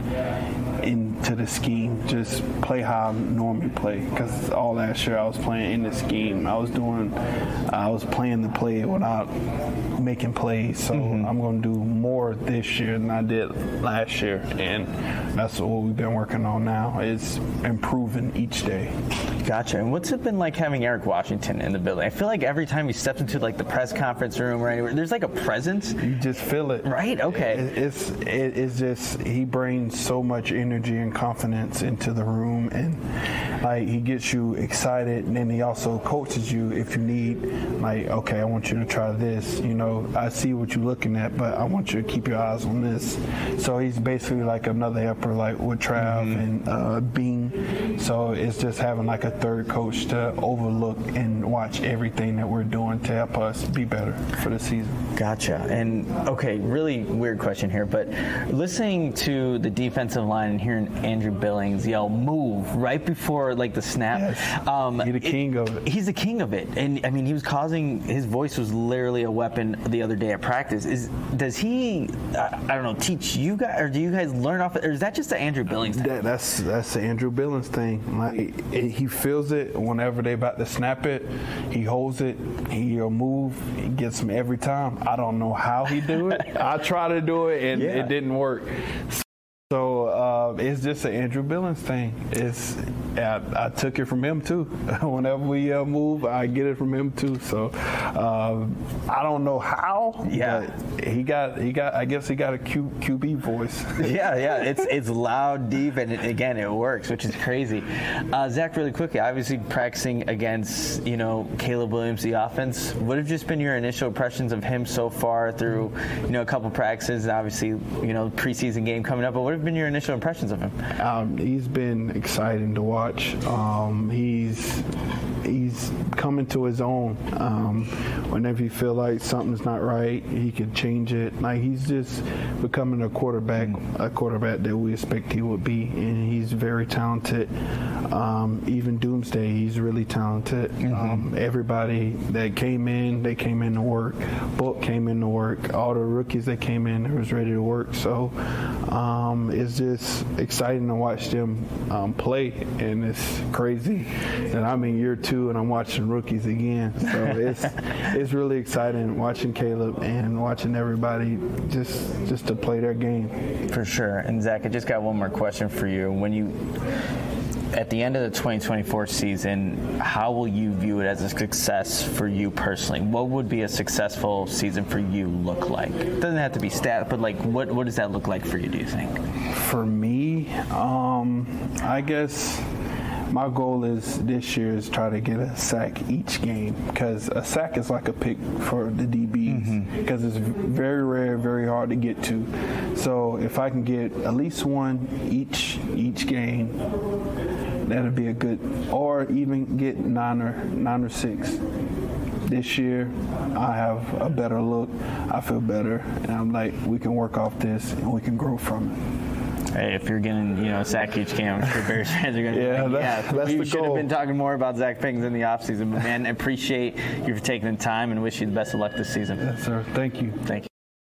into the scheme. Just play how I normally play, because all last year I was playing in the scheme. I was doing, I was playing the play without making plays. So mm-hmm. I'm going to do more this year than I did last year, and that's what we've been working on now, is improving each day. Gotcha. And what's it been like having Eric Washington in the building? I feel like every time he steps into like the press conference room or anywhere, there's like a presence. You just feel it. Right? Okay. It, it's it, it's just, he brings so much energy and confidence into the room, and like he gets you excited, and then he also coaches you if you need, like, okay, I want you to try this. You know, I see what you're looking at, but I want you to keep your eyes on this. So he's basically like another helper, like with Trav mm-hmm. and uh, Bean. So it's just having like a third coach to overlook and watch everything that we're doing to help us be better for the season. Gotcha. And okay, really weird question here, but listening to the defensive line and hearing Andrew Billings yell "move" right before like the snap, yes. um, he's the king it, of it. He's the king of it, and I mean, he was causing. His voice was literally a weapon the other day at practice. Is does he? I, I don't know. Teach you guys, or do you guys learn off it, or is that just the Andrew Billings thing? That, that's that's the Andrew Billings thing. Like it, it, he feels it whenever they about to snap it. He holds it. He'll move. He gets them every time. I don't know how he do it. I try to do it, and yeah. it didn't work. So uh, it's just an Andrew Billings thing. It's I, I took it from him too. Whenever we uh, move, I get it from him too. So uh, I don't know how. Yeah, but he got he got. I guess he got a Q, QB voice. yeah, yeah. It's it's loud, deep, and it, again, it works, which is crazy. Uh, Zach, really quickly, obviously practicing against you know Caleb Williams, the offense. What have just been your initial impressions of him so far through you know a couple practices? Obviously, you know preseason game coming up, but what have been your initial impressions of him? Um, he's been exciting to watch. Um, he's he's coming to his own. Um, whenever you feel like something's not right, he can change it. Like he's just becoming a quarterback, a quarterback that we expect he would be, and he's very talented. Um, even Doomsday, he's really talented. Mm-hmm. Um, everybody that came in, they came in to work. Book came in to work. All the rookies that came in, they was ready to work. So um, it's just exciting to watch them um, play, and it's crazy that I'm in year two and I'm watching rookies again. So it's it's really exciting watching Caleb and watching everybody just just to play their game. For sure. And Zach, I just got one more question for you. When you at the end of the twenty twenty-four season, how will you view it as a success for you personally? What would be a successful season for you look like? It doesn't have to be stat, but like what, what does that look like for you, do you think? For me, um, I guess my goal is this year is try to get a sack each game, because a sack is like a pick for the D Bs, because mm-hmm. it's very rare, very hard to get to. So if I can get at least one each each game, that'd be a good, or even get nine or nine or six. this year, I have a better look. I feel better, and I'm like, we can work off this and we can grow from it. Hey, if you're getting, you know, a sack each game, I'm sure Bears fans are going to yeah, be like, that, yeah, that's we the should goal. have been talking more about Zach Pickens in the offseason. But, man, I appreciate you for taking the time and wish you the best of luck this season. Yes, sir. Thank you. Thank you.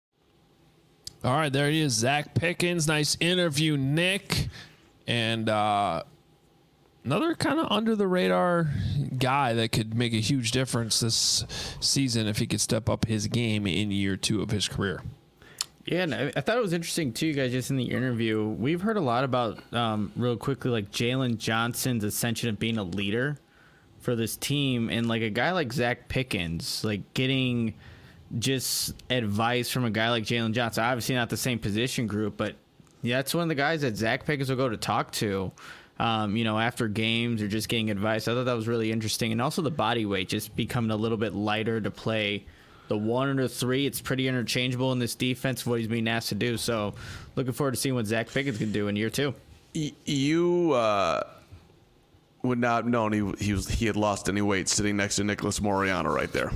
All right, there he is, Zach Pickens. Nice interview, Nick. And uh, another kind of under-the-radar guy that could make a huge difference this season if he could step up his game in year two of his career. Yeah, and I, I thought it was interesting, too, guys, just in the interview. We've heard a lot about, um, real quickly, like Jalen Johnson's ascension of being a leader for this team. And, like, a guy like Zach Pickens, like, getting just advice from a guy like Jalen Johnson. Obviously not the same position group, but yeah, that's one of the guys that Zach Pickens will go to talk to, um, you know, after games or just getting advice. I thought that was really interesting. And also the body weight just becoming a little bit lighter to play the one or the three. It's pretty interchangeable in this defense, what he's being asked to do. So looking forward to seeing what Zach Pickens can do in year two. You uh, would not have known he, he, was, he had lost any weight sitting next to Nicholas Moreano right there.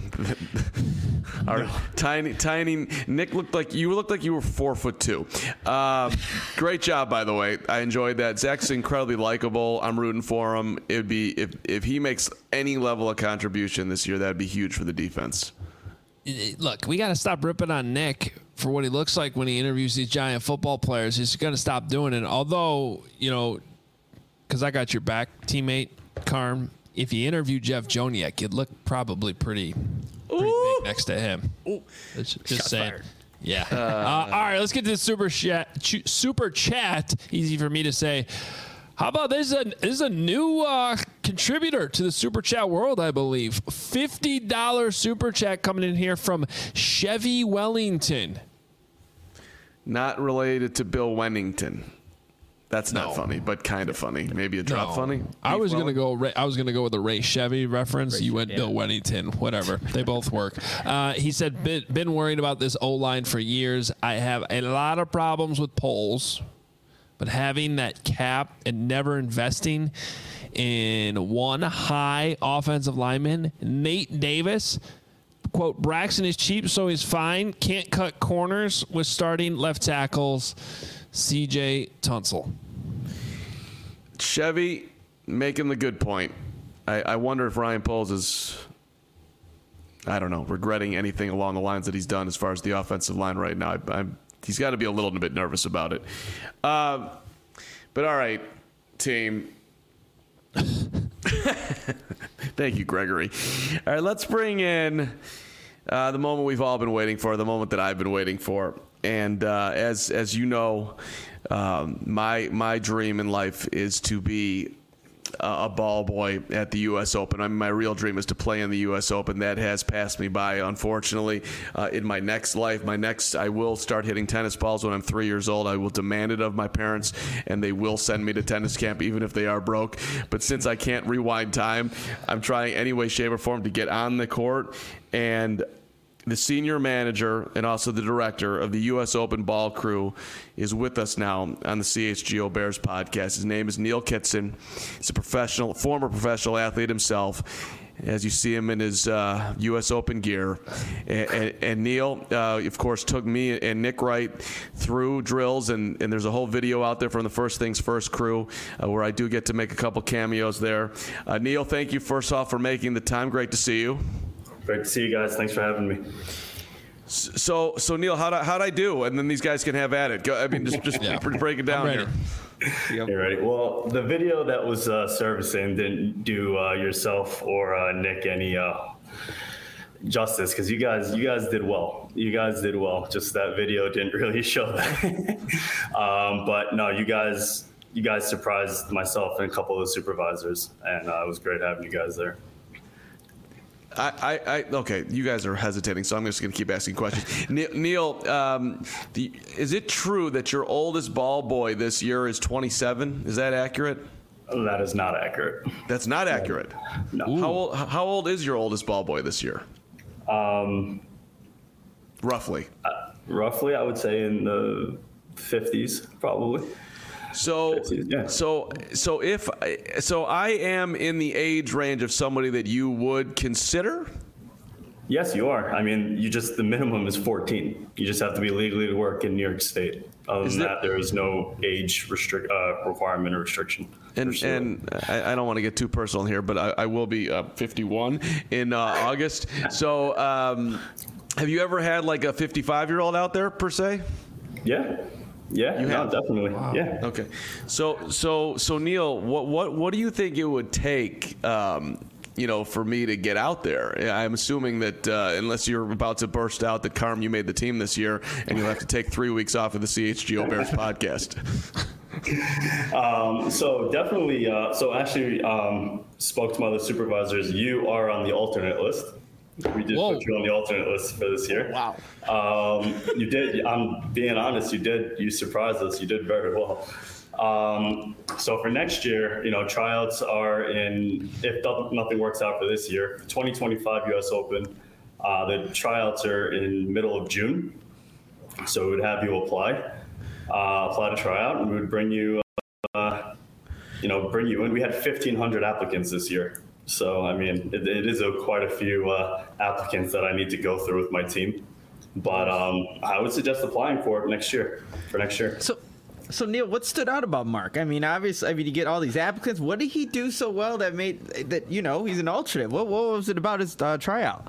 Our tiny, tiny Nick looked like you looked like you were four foot two. Um, great job, by the way. I enjoyed that. Zach's incredibly likable. I'm rooting for him. It'd be if if he makes any level of contribution this year, that'd be huge for the defense. Look, we got to stop ripping on Nick for what he looks like when he interviews these giant football players. He's going to stop doing it. Although, you know, because I got your back, teammate Carm. If you interview Jeff Joniak, you'd look probably pretty. Pretty big next to him. Ooh. Just, just saying. Fired. Yeah. Uh, uh, all right, let's get to the super chat. Super chat. Easy for me to say. How about this? Is a, this is a new uh, contributor to the super chat world, I believe. fifty dollars super chat coming in here from Chevy Wellington. Not related to Bill Wennington. That's not no. funny, but kind of funny. Maybe a drop no. funny. Beef I was gonna go. I was gonna go with a Ray Chevy reference. Ray you went yeah. Bill Wennington. Whatever. They both work. Uh, he said, been, "Been worried about this O line for years. I have a lot of problems with polls, but having that cap and never investing in one high offensive lineman, Nate Davis." Quote, Braxton is cheap, so he's fine. Can't cut corners with starting left tackles. C J Tunsil. Chevy making the good point. I, I wonder if Ryan Poles is, I don't know, regretting anything along the lines that he's done as far as the offensive line right now. I, I'm, he's got to be a little bit nervous about it. Uh, but all right, team. Thank you, Gregory. All right, let's bring in uh, the moment we've all been waiting for, the moment that I've been waiting for. And uh, as as you know, um, my my dream in life is to be a, a ball boy at the U S Open. I mean, my real dream is to play in the U S Open. That has passed me by, unfortunately. Uh, in my next life, my next, I will start hitting tennis balls when I'm three years old. I will demand it of my parents, and they will send me to tennis camp, even if they are broke. But since I can't rewind time, I'm trying any way, shape, or form to get on the court. And the senior manager and also the director of the U S Open ball crew is with us now on the C H G O Bears podcast. His name is Neil Kitson. He's a professional, former professional athlete himself, as you see him in his uh, U S Open gear. And, and, and Neil, uh, of course, took me and Nick Wright through drills, and, and there's a whole video out there from the First Things First crew uh, where I do get to make a couple cameos there. Uh, Neil, thank you first off for making the time. Great to see you. Great to see you guys. Thanks for having me. So, so Neil, how'd I, how'd I do? And then these guys can have at it. Go, I mean, just, just yeah. break it down here. Yep. You ready? Well, the video that was uh, servicing didn't do uh, yourself or uh, Nick any uh, justice, because you guys, you guys did well. You guys did well. Just that video didn't really show that. um, but no, you guys, you guys surprised myself and a couple of the supervisors, and uh, it was great having you guys there. I, I, I, okay, you guys are hesitating, so I'm just going to keep asking questions. Neil, um, the, is it true that your oldest ball boy this year is twenty-seven? Is that accurate? That is not accurate. That's not accurate? No. How old, how old is your oldest ball boy this year? Um, roughly. Uh, roughly, I would say in the fifties, probably. So, yeah. so, so if, so I am in the age range of somebody that you would consider. Yes, you are. I mean, you just, the minimum is fourteen. You just have to be legally to work in New York State. Other than that, there is no age restrict uh, requirement or restriction. And sure. and I, I don't want to get too personal here, but I, I will be uh, fifty-one in uh, August. So um, have you ever had like a fifty-five-year-old out there per se? Yeah. Yeah, you no, have definitely. Wow. Yeah. Okay. So so so Neil, what what what do you think it would take um, you know, for me to get out there? I'm assuming that uh, unless you're about to burst out that Carm, you made the team this year, and you'll have to take three weeks off of the C H G O Bears podcast. um, so definitely. Uh, so actually, um, spoke to my other supervisors. You are on the alternate list. We did Whoa. put you on the alternate list for this year. Wow. Um, you did. I'm being honest. You did. You surprised us. You did very well. Um, so for next year, you know, tryouts are in, if nothing works out for this year, twenty twenty-five U S Open, uh, the tryouts are in middle of June. So we would have you apply, uh, apply to try out, and we would bring you, uh, you know, bring you in. We had fifteen hundred applicants this year. So, I mean, it, it is a, quite a few uh, applicants that I need to go through with my team. But um, I would suggest applying for it next year, for next year. So. So Neil, what stood out about Mark? I mean, obviously, I mean, you get all these applicants. What did he do so well that made that you know he's an alternate? What what was it about his uh, tryout?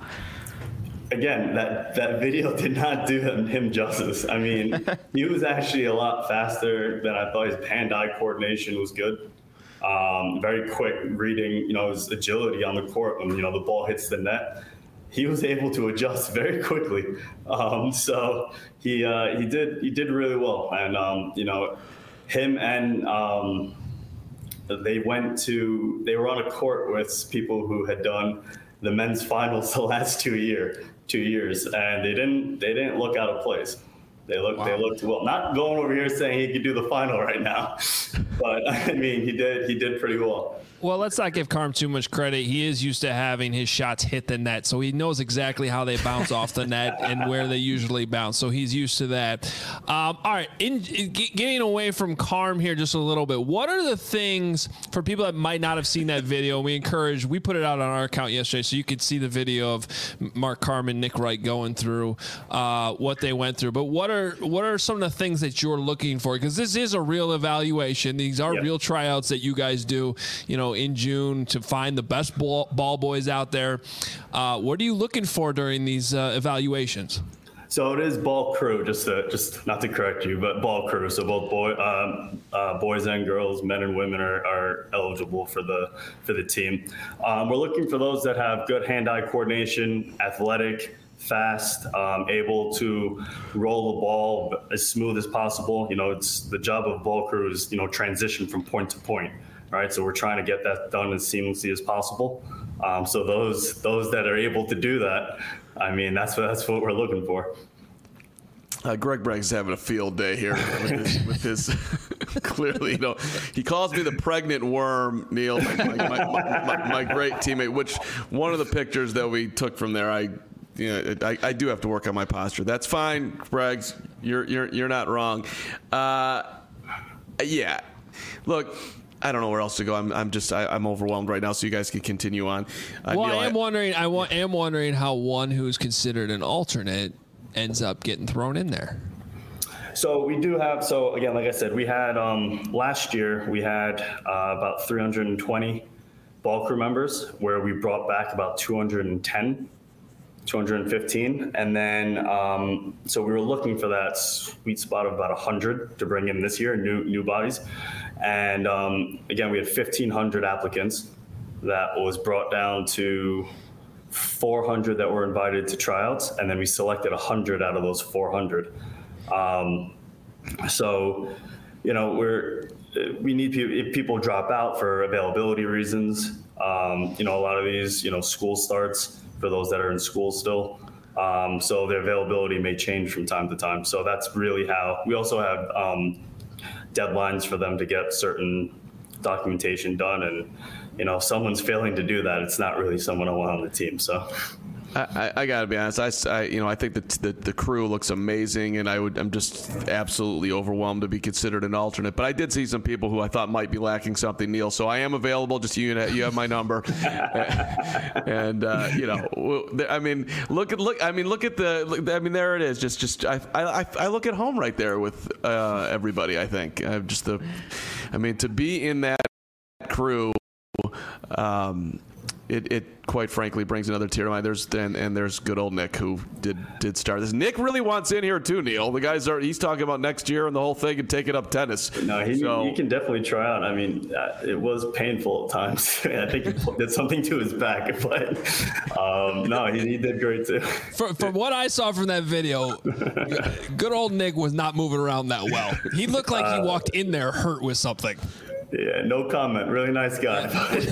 Again, that that video did not do him, him justice. I mean, he was actually a lot faster than I thought. His hand-eye coordination was good. Um, very quick reading, you know, his agility on the court when you know the ball hits the net. He was able to adjust very quickly, um, so he uh, he did he did really well. And um, you know, him and um, they went to they were on a court with people who had done the men's finals the last two year two years, and they didn't they didn't look out of place. They looked wow. they looked well. Not going over here saying he could do the final right now, but I mean he did he did pretty well. Well, let's not give Carm too much credit. He is used to having his shots hit the net, so he knows exactly how they bounce off the net and where they usually bounce. So he's used to that. Um, all right, in, in, getting away from Carm here just a little bit, what are the things for people that might not have seen that video? We encourage, we put it out on our account yesterday, so you could see the video of Mark Carm and Nick Wright going through uh, what they went through. But what are what are some of the things that you're looking for? Because this is a real evaluation. These are yep. real tryouts that you guys do, you know, in June to find the best ball, ball boys out there. Uh, what are you looking for during these uh, evaluations? So it is ball crew, just to, just not to correct you, but ball crew. So both boy, um, uh, boys and girls, men and women are, are eligible for the for the team. Um, we're looking for those that have good hand-eye coordination, athletic, fast, um, able to roll the ball as smooth as possible. You know, it's the job of ball crew is, you know, transition from point to point. Right, so we're trying to get that done as seamlessly as possible. Um, so those those that are able to do that, I mean, that's what that's what we're looking for. Uh, Greg Bragg's having a field day here with his, with his clearly, you know, he calls me the pregnant worm, Neil, my, my, my, my, my great teammate. Which one of the pictures that we took from there, I, you know, I, I do have to work on my posture. That's fine, Braggs. You're you're you're not wrong. Uh, yeah, look. I don't know where else to go. I'm, I'm just, I, I'm overwhelmed right now. So you guys can continue on. Uh, well, Neil, I am I, wondering. I wa- am wondering how one who's considered an alternate ends up getting thrown in there. So we do have. So again, like I said, we had um, last year we had uh, about three hundred twenty ball crew members, where we brought back about two hundred ten, two hundred fifteen, and then um, so we were looking for that sweet spot of about one hundred to bring in this year, new new bodies. And um, again, we had fifteen hundred applicants. That was brought down to four hundred that were invited to tryouts, and then we selected one hundred out of those four hundred. Um, so, you know, we're we need people. If people drop out for availability reasons, um, you know, a lot of these, you know, school starts for those that are in school still. Um, so their availability may change from time to time. So that's really how we also have. Um, deadlines for them to get certain documentation done, and you know if someone's failing to do that, it's not really someone I want on the team. So I, I, I gotta be honest. I, I you know I think that the, the crew looks amazing, and I would I'm just absolutely overwhelmed to be considered an alternate. But I did see some people who I thought might be lacking something, Neil. So I am available. Just you you have my number, and uh, you know I mean look at look I mean look at the look, I mean there it is. Just just I I, I look at home right there with uh, everybody. I think I just the I mean to be in that crew. Um, It, it quite frankly brings another tear to my. There's and, and there's good old Nick who did did start this. Nick really wants in here too, Neil. The guys are he's talking about next year and the whole thing and taking up tennis. No, he, so, he can definitely try out. I mean, uh, it was painful at times. I think he did something to his back, but um, no, he, he did great too. From, from what I saw from that video, good old Nick was not moving around that well. He looked like he walked in there hurt with something. Yeah, no comment. Really nice guy.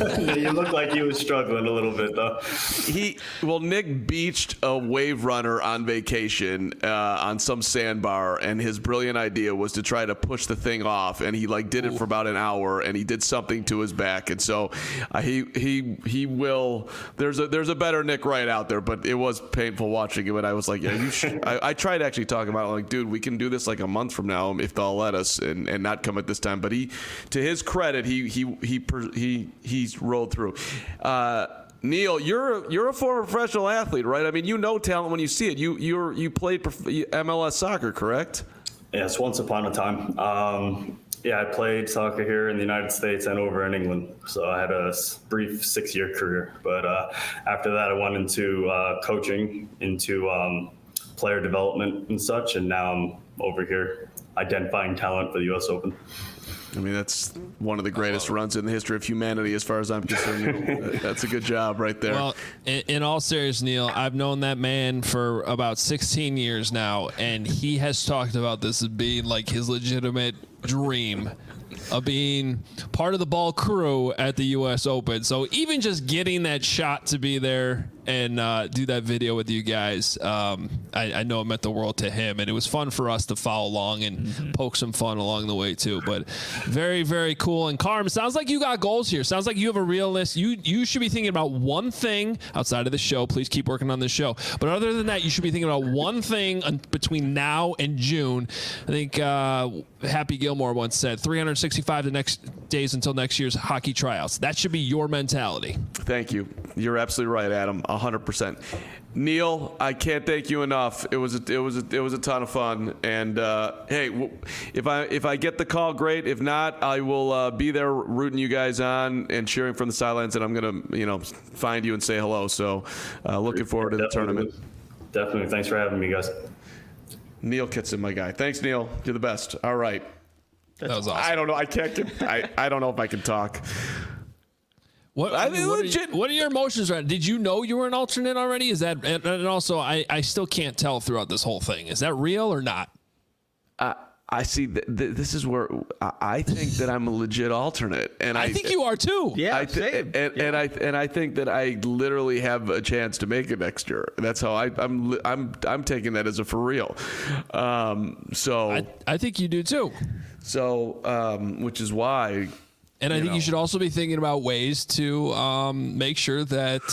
He looked like he was struggling a little bit, though. He well, Nick beached a wave runner on vacation uh, on some sandbar, and his brilliant idea was to try to push the thing off, and he like did it for about an hour, and he did something to his back, and so uh, he he he will. There's a there's a better Nick Wright out there, but it was painful watching him, and I was like, yeah, you should. I, I tried actually talking about it, like, dude, we can do this like a month from now if they'll let us, and, and not come at this time. But he, to his credit, he he he he he's rolled through. Uh, Neil, you're you're a former professional athlete, right? I mean, you know talent when you see it. You you're you played M L S soccer, correct? Yes, once upon a time. Um, yeah, I played soccer here in the United States and over in England. So I had a brief six-year career. But uh, after that, I went into uh, coaching, into um, player development and such, and now I'm over here identifying talent for the U S Open. I mean, that's one of the greatest runs in the history of humanity, as far as I'm concerned. That's a good job right there. Well, in, in all seriousness, Neil, I've known that man for about sixteen years now, and he has talked about this as being like his legitimate dream of being part of the ball crew at the U S Open. So even just getting that shot to be there and uh, do that video with you guys, um, I, I know it meant the world to him, and it was fun for us to follow along and mm-hmm. poke some fun along the way too. But very, very cool. And Carm, sounds like you got goals here. Sounds like you have a real list. You you should be thinking about one thing outside of the show. Please keep working on this show. But other than that, you should be thinking about one thing between now and June. I think uh, Happy Gilmore once said three hundred sixty-five the next days until next year's hockey tryouts. That should be your mentality. Thank you. You're absolutely right, Adam. one hundred percent. Neil, I can't thank you enough. It was a, it was a, it was a ton of fun. And uh, hey, w- if I if I get the call, great. If not, I will uh, be there rooting you guys on and cheering from the sidelines. And I'm gonna you know find you and say hello. So uh, looking forward to the Definitely. tournament. Definitely. Thanks for having me, guys. Neil Kitson, my guy. Thanks, Neil. You're the best. All right. That was awesome. I don't know. I can't. Get, I I don't know if I can talk. What, I mean, what, are you, what are your emotions right now? Did you know you were an alternate already? Is that and, and also I, I still can't tell throughout this whole thing. Is that real or not? Uh, I see. Th- th- this is where I, I think that I'm a legit alternate, and I, I think you are too. Yeah, I th- same. And, yeah. and I and I think that I literally have a chance to make it next year. That's how I, I'm I'm I'm taking that as a for real. Um, so I, I think you do too. So um, which is why. And I you think know. you should also be thinking about ways to um, make sure that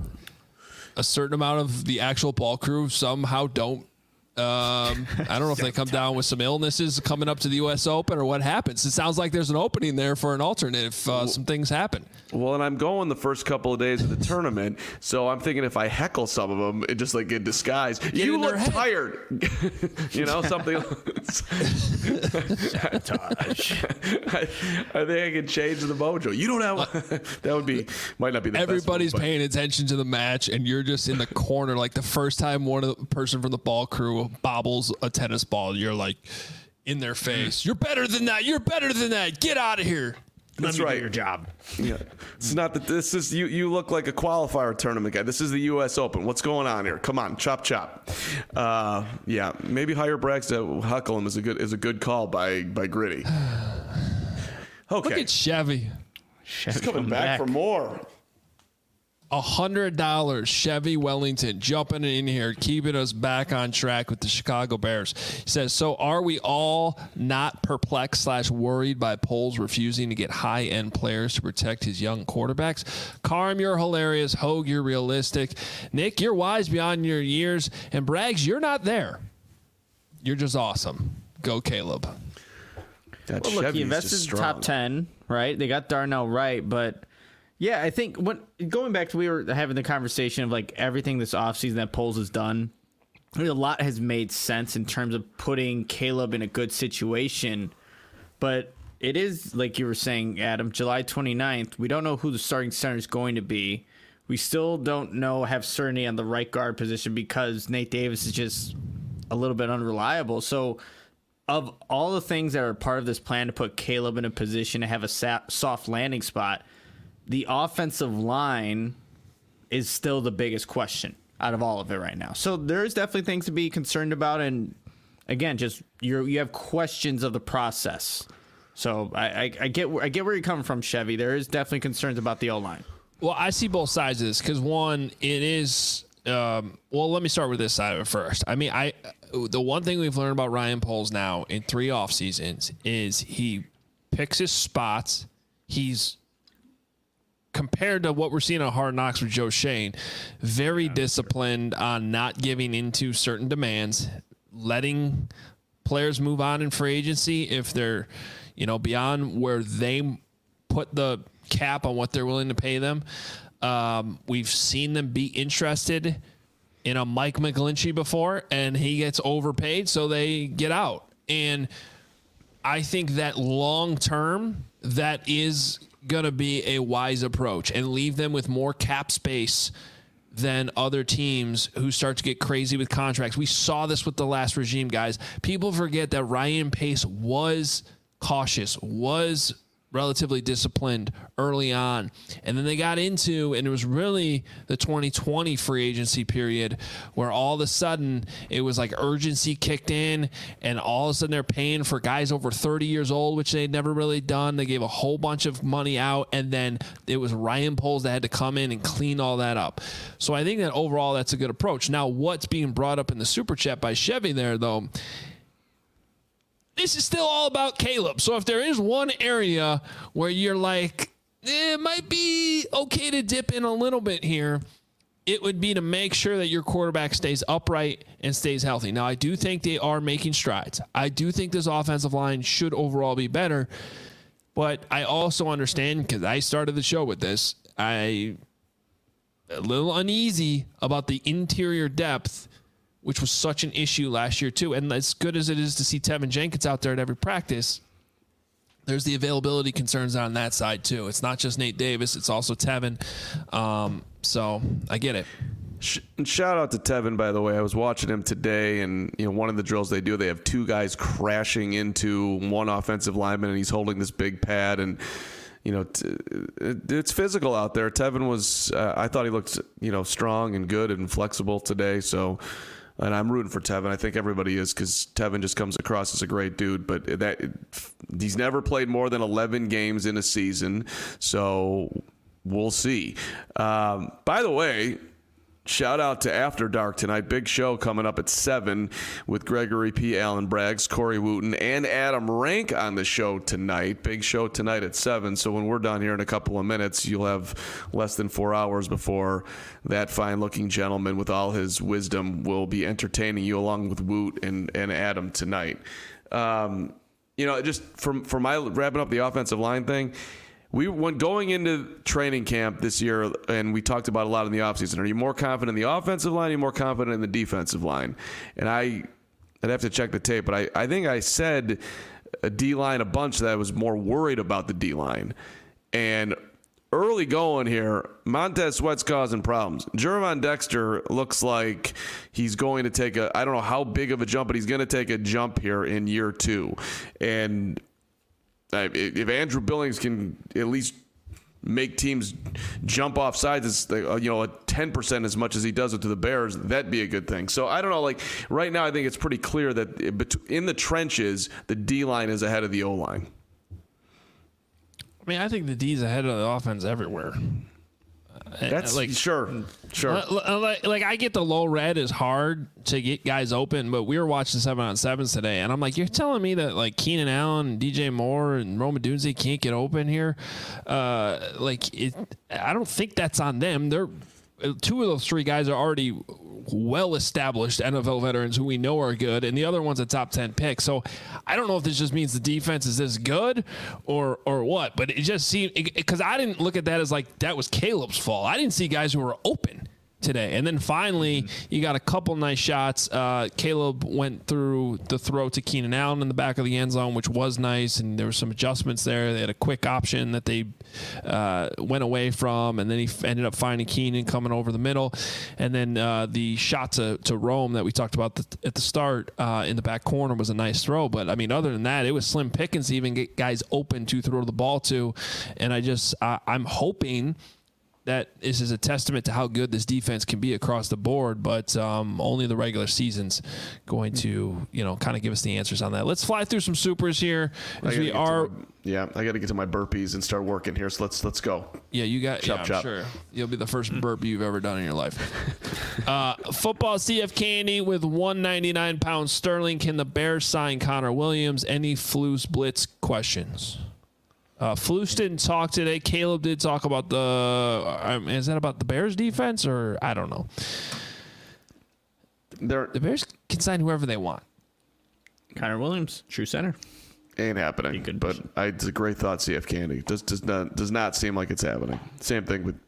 a certain amount of the actual ball crew somehow don't. Um, I don't know if they come down with some illnesses coming up to the U S Open or what happens. It sounds like there's an opening there for an alternate if uh, some things happen. Well, and I'm going the first couple of days of the tournament, so I'm thinking if I heckle some of them, it just like in disguise, Get you in look their head. tired. You know, something. Sabotage. I, I think I can change the mojo. You don't have. That would be might not be the Everybody's best move, paying attention to the match, and you're just in the corner. Like the first time one of the person from the ball crew bobbles a tennis ball, you're like in their face. You're better than that. You're better than that. Get out of here. That's Let me right. do your job. Yeah, it's not that this is you. You look like a qualifier tournament guy. This is the U S Open. What's going on here? Come on, chop chop. Uh, yeah, maybe hire Braggs to huckle him is a good is a good call by by Gritty. Okay, Look at Chevy. he's coming back, back for more. one hundred dollars, Chevy Wellington, jumping in here, keeping us back on track with the Chicago Bears. He says, so are we all not perplexed slash worried by Poles refusing to get high-end players to protect his young quarterbacks? Carm, you're hilarious. Hogue, you're realistic. Nick, you're wise beyond your years. And Braggs, you're not there. You're just awesome. Go, Caleb. That Well, look, he Chevy's invested just in top strong. ten, right? They got Darnell right, but yeah, I think when going back to we were having the conversation of like everything this offseason that Poles has done, I mean, a lot has made sense in terms of putting Caleb in a good situation, but it is like you were saying, Adam, July twenty-ninth. We don't know who the starting center is going to be. We still don't know have certainty on the right guard position because Nate Davis is just a little bit unreliable. So of all the things that are part of this plan to put Caleb in a position to have a sa- soft landing spot, the offensive line is still the biggest question out of all of it right now. So there's definitely things to be concerned about. And again, just you're, you have questions of the process. So I, I, I get I get where you're coming from, Chevy. There is definitely concerns about the O-line. Well, I see both sides of this because, one, it is um, – well, let me start with this side of it first. I mean, I the one thing we've learned about Ryan Poles now in three off seasons is he picks his spots. He's – compared to what we're seeing on Hard Knocks with Joe Shane, very disciplined on not giving into certain demands, letting players move on in free agency if they're, you know, beyond where they put the cap on what they're willing to pay them. Um, we've seen them be interested in a Mike McGlinchey before, and he gets overpaid, so they get out. And I think that long term, that is going to be a wise approach and leave them with more cap space than other teams who start to get crazy with contracts. We saw this with the last regime, guys. People forget that Ryan Pace was cautious, was relatively disciplined early on. And then they got into, and it was really the twenty twenty free agency period where all of a sudden it was like urgency kicked in, and all of a sudden they're paying for guys over thirty years old, which they'd never really done. They gave a whole bunch of money out, and then it was Ryan Poles that had to come in and clean all that up. So I think that overall that's a good approach. Now, what's being brought up in the Super Chat by Chevy there, though, this is still all about Caleb. So if there is one area where you're like, eh, it might be okay to dip in a little bit here, it would be to make sure that your quarterback stays upright and stays healthy. Now, I do think they are making strides. I do think this offensive line should overall be better. But I also understand, because I started the show with this, I a little uneasy about the interior depth, which was such an issue last year too. And as good as it is to see Tevin Jenkins out there at every practice, there's the availability concerns on that side too. It's not just Nate Davis, it's also Tevin. Um, so I get it. And shout out to Tevin, by the way. I was watching him today, and you know, one of the drills they do, they have two guys crashing into one offensive lineman, and he's holding this big pad, and you know, t- it's physical out there. Tevin was, uh, I thought he looked, you know, strong and good and flexible today. So, and I'm rooting for Tevin. I think everybody is, because Tevin just comes across as a great dude. But that he's never played more than eleven games in a season, so we'll see. Um, by the way, shout out to After Dark tonight. Big show coming up at seven with Gregory P. Allen Braggs, Corey Wooten, and Adam Rank on the show tonight. Big show tonight at seven. So when we're done here in a couple of minutes, you'll have less than four hours before that fine-looking gentleman with all his wisdom will be entertaining you along with Woot and, and Adam tonight. Um, you know, just for, for my wrapping up the offensive line thing, we when going into training camp this year, and we talked about a lot in the offseason, are you more confident in the offensive line, or are you more confident in the defensive line? And I, I'd have to check the tape, but I, I think I said a D-line a bunch that I was more worried about the D-line. And early going here, Montez Sweat's causing problems. Gervon Dexter looks like he's going to take a, I don't know how big of a jump, but he's going to take a jump here in year two. And if Andrew Billings can at least make teams jump off sides, you know, ten percent as much as he does it to the Bears, that'd be a good thing. So I don't know. Like right now, I think it's pretty clear that in the trenches, the D-line is ahead of the O-line. I mean, I think the D's ahead of the offense everywhere. That's like sure, sure. Like, like I get the low red is hard to get guys open, but we were watching seven on sevens today, and I'm like, you're telling me that like Keenan Allen, D J Moore, and Rome Odunze can't get open here? Uh, like it, I don't think that's on them. They're two of those three guys are already well-established N F L veterans who we know are good, and the other one's a top ten pick. So I don't know if this just means the defense is this good or or what, but it just seemed, because I didn't look at that as like that was Caleb's fault. I didn't see guys who were open today. And then finally, you got a couple nice shots. Uh, Caleb went through the throw to Keenan Allen in the back of the end zone, which was nice, and there were some adjustments there. They had a quick option that they uh, went away from, and then he f- ended up finding Keenan coming over the middle. And then uh, the shot to, to Rome that we talked about the, at the start uh, in the back corner was a nice throw. But, I mean, other than that, it was slim pickings to even get guys open to throw the ball to. And I just uh, I'm hoping – that this is a testament to how good this defense can be across the board, but um, only the regular season's going to, you know, kind of give us the answers on that. Let's fly through some supers here. As we are, my, yeah, I got to get to my burpees and start working here. So let's let's go. Yeah, you got. Chop, yeah, I'm chop. sure you'll be the first burpee you've ever done in your life. uh, football C F Candy with one ninety-nine pounds sterling. Can the Bears sign Connor Williams? Any Flus Blitz questions? Uh, Flus didn't talk today. Caleb did talk about the. Um, is that about the Bears defense or I don't know. They're, the Bears can sign whoever they want. Connor Williams, true center. Ain't happening. But I, it's a great thought. C F Candy does does not does not seem like it's happening. Same thing with.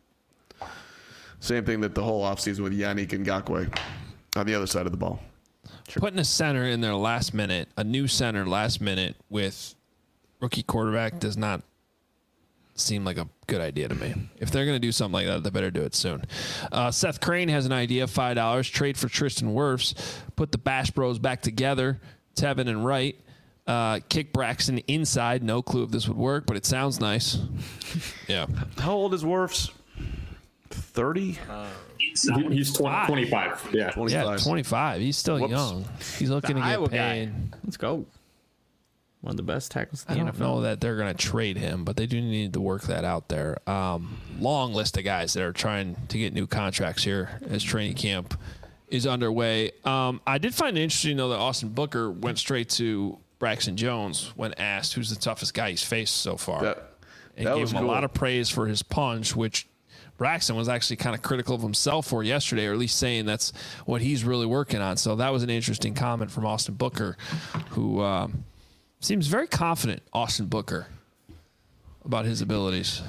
Same thing that the whole offseason with Yannick Ngakoue on the other side of the ball. Sure. Putting a center in there last minute, a new center last minute with. Rookie quarterback does not seem like a good idea to me. If they're going to do something like that, they better do it soon. Uh, Seth Crane has an idea, five dollars. Trade for Tristan Wirfs. Put the Bash Bros back together, Tevin and Wright. Uh, kick Braxton inside. No clue if this would work, but it sounds nice. Yeah. How old is Wirfs? thirty? Uh, he's twenty, twenty-five. Yeah. twenty-five. Yeah, twenty-five. He's still Whoops. young. He's looking The to get Iowa paid. guy. Let's go. One of the best tackles in I the don't N F know L. that they're going to trade him, but they do need to work that out there. Um, long list of guys that are trying to get new contracts here as training camp is underway. Um, I did find it interesting, though, that Austin Booker went straight to Braxton Jones when asked who's the toughest guy he's faced so far. That, and that gave was him cool. a lot of praise for his punch, which Braxton was actually kind of critical of himself for yesterday, or at least saying that's what he's really working on. So that was an interesting comment from Austin Booker, who um, – seems very confident, Austin Booker, about his abilities.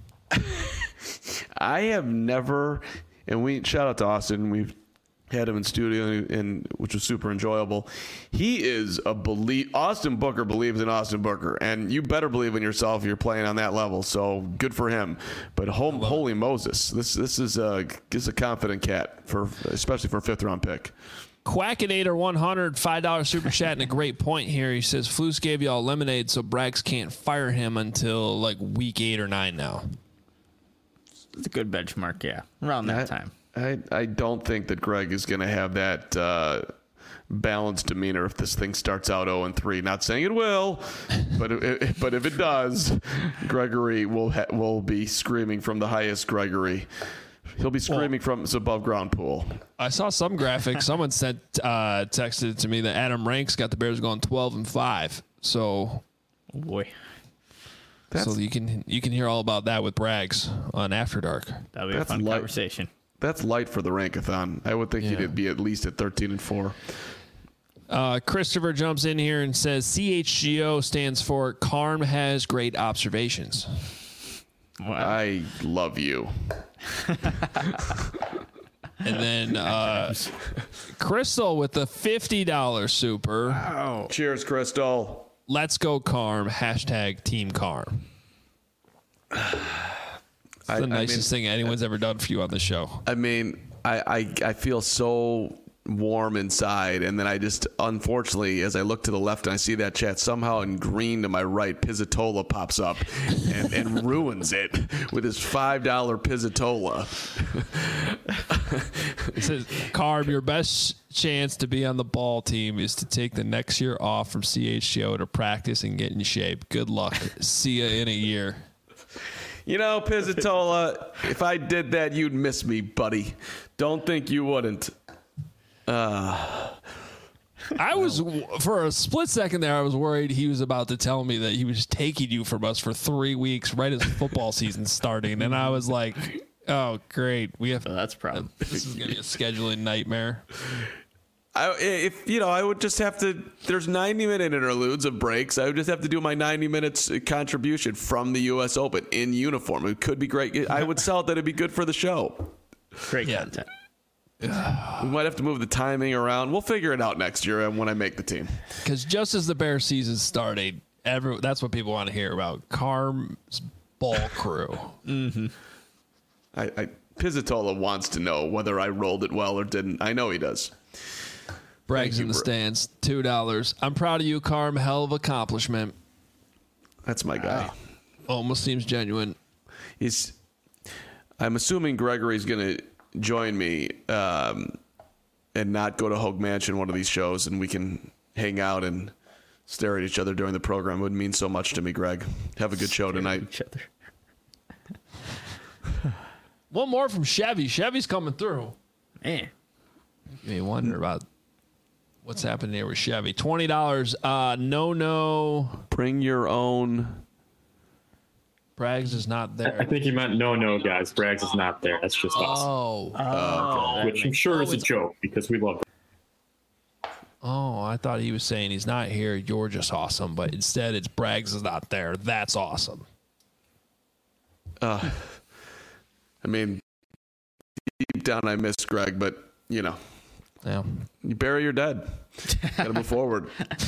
I have never, and we shout out to Austin. We've had him in studio, and which was super enjoyable. He is a believe. Austin Booker believes in Austin Booker, and you better believe in yourself if you're playing on that level. So good for him. But home, holy Moses, this this is a this is a confident cat for especially for a fifth round pick. Quackinator one hundred, five dollars super chat, and a great point here. He says, Flus gave y'all lemonade, so Braggs can't fire him until like week eight or nine now. It's a good benchmark, yeah. Around that I, time. I, I don't think that Greg is going to have that uh, balanced demeanor if this thing starts out oh and three. Not saying it will, but it, but if it does, Gregory will ha- will be screaming from the highest Gregory. He'll be screaming well, from his above ground pool. I saw some graphic. Someone sent uh, texted it to me that Adam Ranks got the Bears going twelve and five. So, oh boy, That's, so you can you can hear all about that with Braggs on After Dark. That'll be a fun light, conversation. That's light for the Rankathon. I would think yeah. he'd be at least at thirteen and four. Uh, Christopher jumps in here and says C H G O stands for Carm has great observations. Wow. I love you. And then uh, Crystal with the fifty dollars super. Wow. Cheers, Crystal. Let's go Carm. Hashtag Team Carm. It's I, the nicest I mean, thing anyone's ever done for you on the show. I mean, I, I, I feel so warm inside, and then I just, unfortunately, as I look to the left and I see that chat, somehow in green to my right, Pizzatola pops up and, and ruins it with his five dollar Pizzatola. It says, Carm, your best chance to be on the ball team is to take the next year off from C H G O to practice and get in shape. Good luck. See ya in a year. You know, Pizzatola, if I did that, you'd miss me, buddy. Don't think you wouldn't. Uh, I was, for a split second there, I was worried he was about to tell me that he was taking you from us for three weeks right as football season starting. And I was like, oh, great. We have. Oh, that's a problem. This is going to be a scheduling nightmare. I, if you know, I would just have to. There's ninety minute interludes of breaks. I would just have to do my ninety minutes contribution from the U S Open in uniform. It could be great. I would sell it that it'd be good for the show. Great yeah. content. We might have to move the timing around. We'll figure it out next year when I make the team. Because just as the Bear season started, every that's what people want to hear about. Carm's ball crew. mm-hmm. I, I Pizzatola wants to know whether I rolled it well or didn't. I know he does. Bragg's in the stands, two dollars. I'm proud of you, Carm. Hell of accomplishment. That's my guy. Wow. Almost seems genuine. He's. I'm assuming Gregory's going to join me um, and not go to Hogue Mansion one of these shows, and we can hang out and stare at each other during the program. It would mean so much to me, Greg. Have a good show tonight. Each other. One more from Chevy. Chevy's coming through. Man. You wonder about what's happening here with Chevy. twenty dollars. Uh, no, no. Bring your own. Braggs is not there. I think he meant no, no, guys. Braggs is not there. That's just us. Oh. Oh. Okay. Which I'm sure is a joke because we love him. Oh, I thought he was saying he's not here. You're just awesome. But instead, it's Braggs is not there. That's awesome. Uh, I mean, deep down, I miss Greg, but, you know. Yeah. You bury your dead. Got to move forward.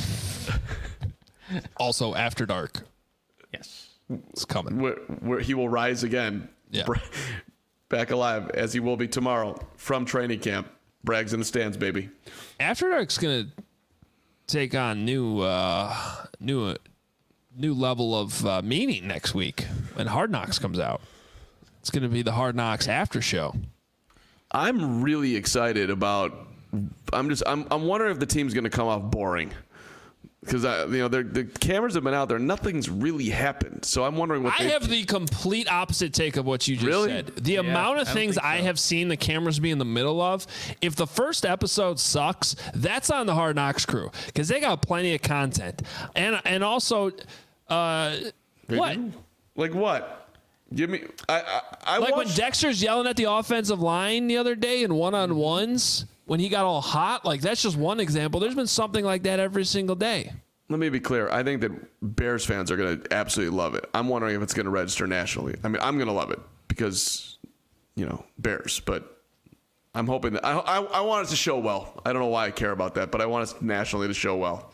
Also, After Dark. Yes. It's coming. Where, where he will rise again. Yeah. Back alive, as he will be tomorrow from training camp. Braggs in the stands, baby. After Dark's going to take on new, uh, new, uh, new level of uh, meaning next week when Hard Knocks comes out. It's going to be the Hard Knocks after show. I'm really excited about. I'm just. I'm. I'm wondering if the team's going to come off boring, because you know the cameras have been out there. Nothing's really happened. So I'm wondering what. I they, have the complete opposite take of what you just really? said. The Yeah, amount of I don't things think so. I have seen the cameras be in the middle of. If the first episode sucks, that's on the Hard Knocks crew because they got plenty of content, and and also, uh, what? Like what? Give me. I. I, I Like watched, when Dexter's yelling at the offensive line the other day in one-on-ones when he got all hot. Like, that's just one example. There's been something like that every single day. Let me be clear. I think that Bears fans are going to absolutely love it. I'm wondering if it's going to register nationally. I mean, I'm going to love it because, you know, Bears. But I'm hoping that I, I, I want it to show well. I don't know why I care about that, but I want it nationally to show well.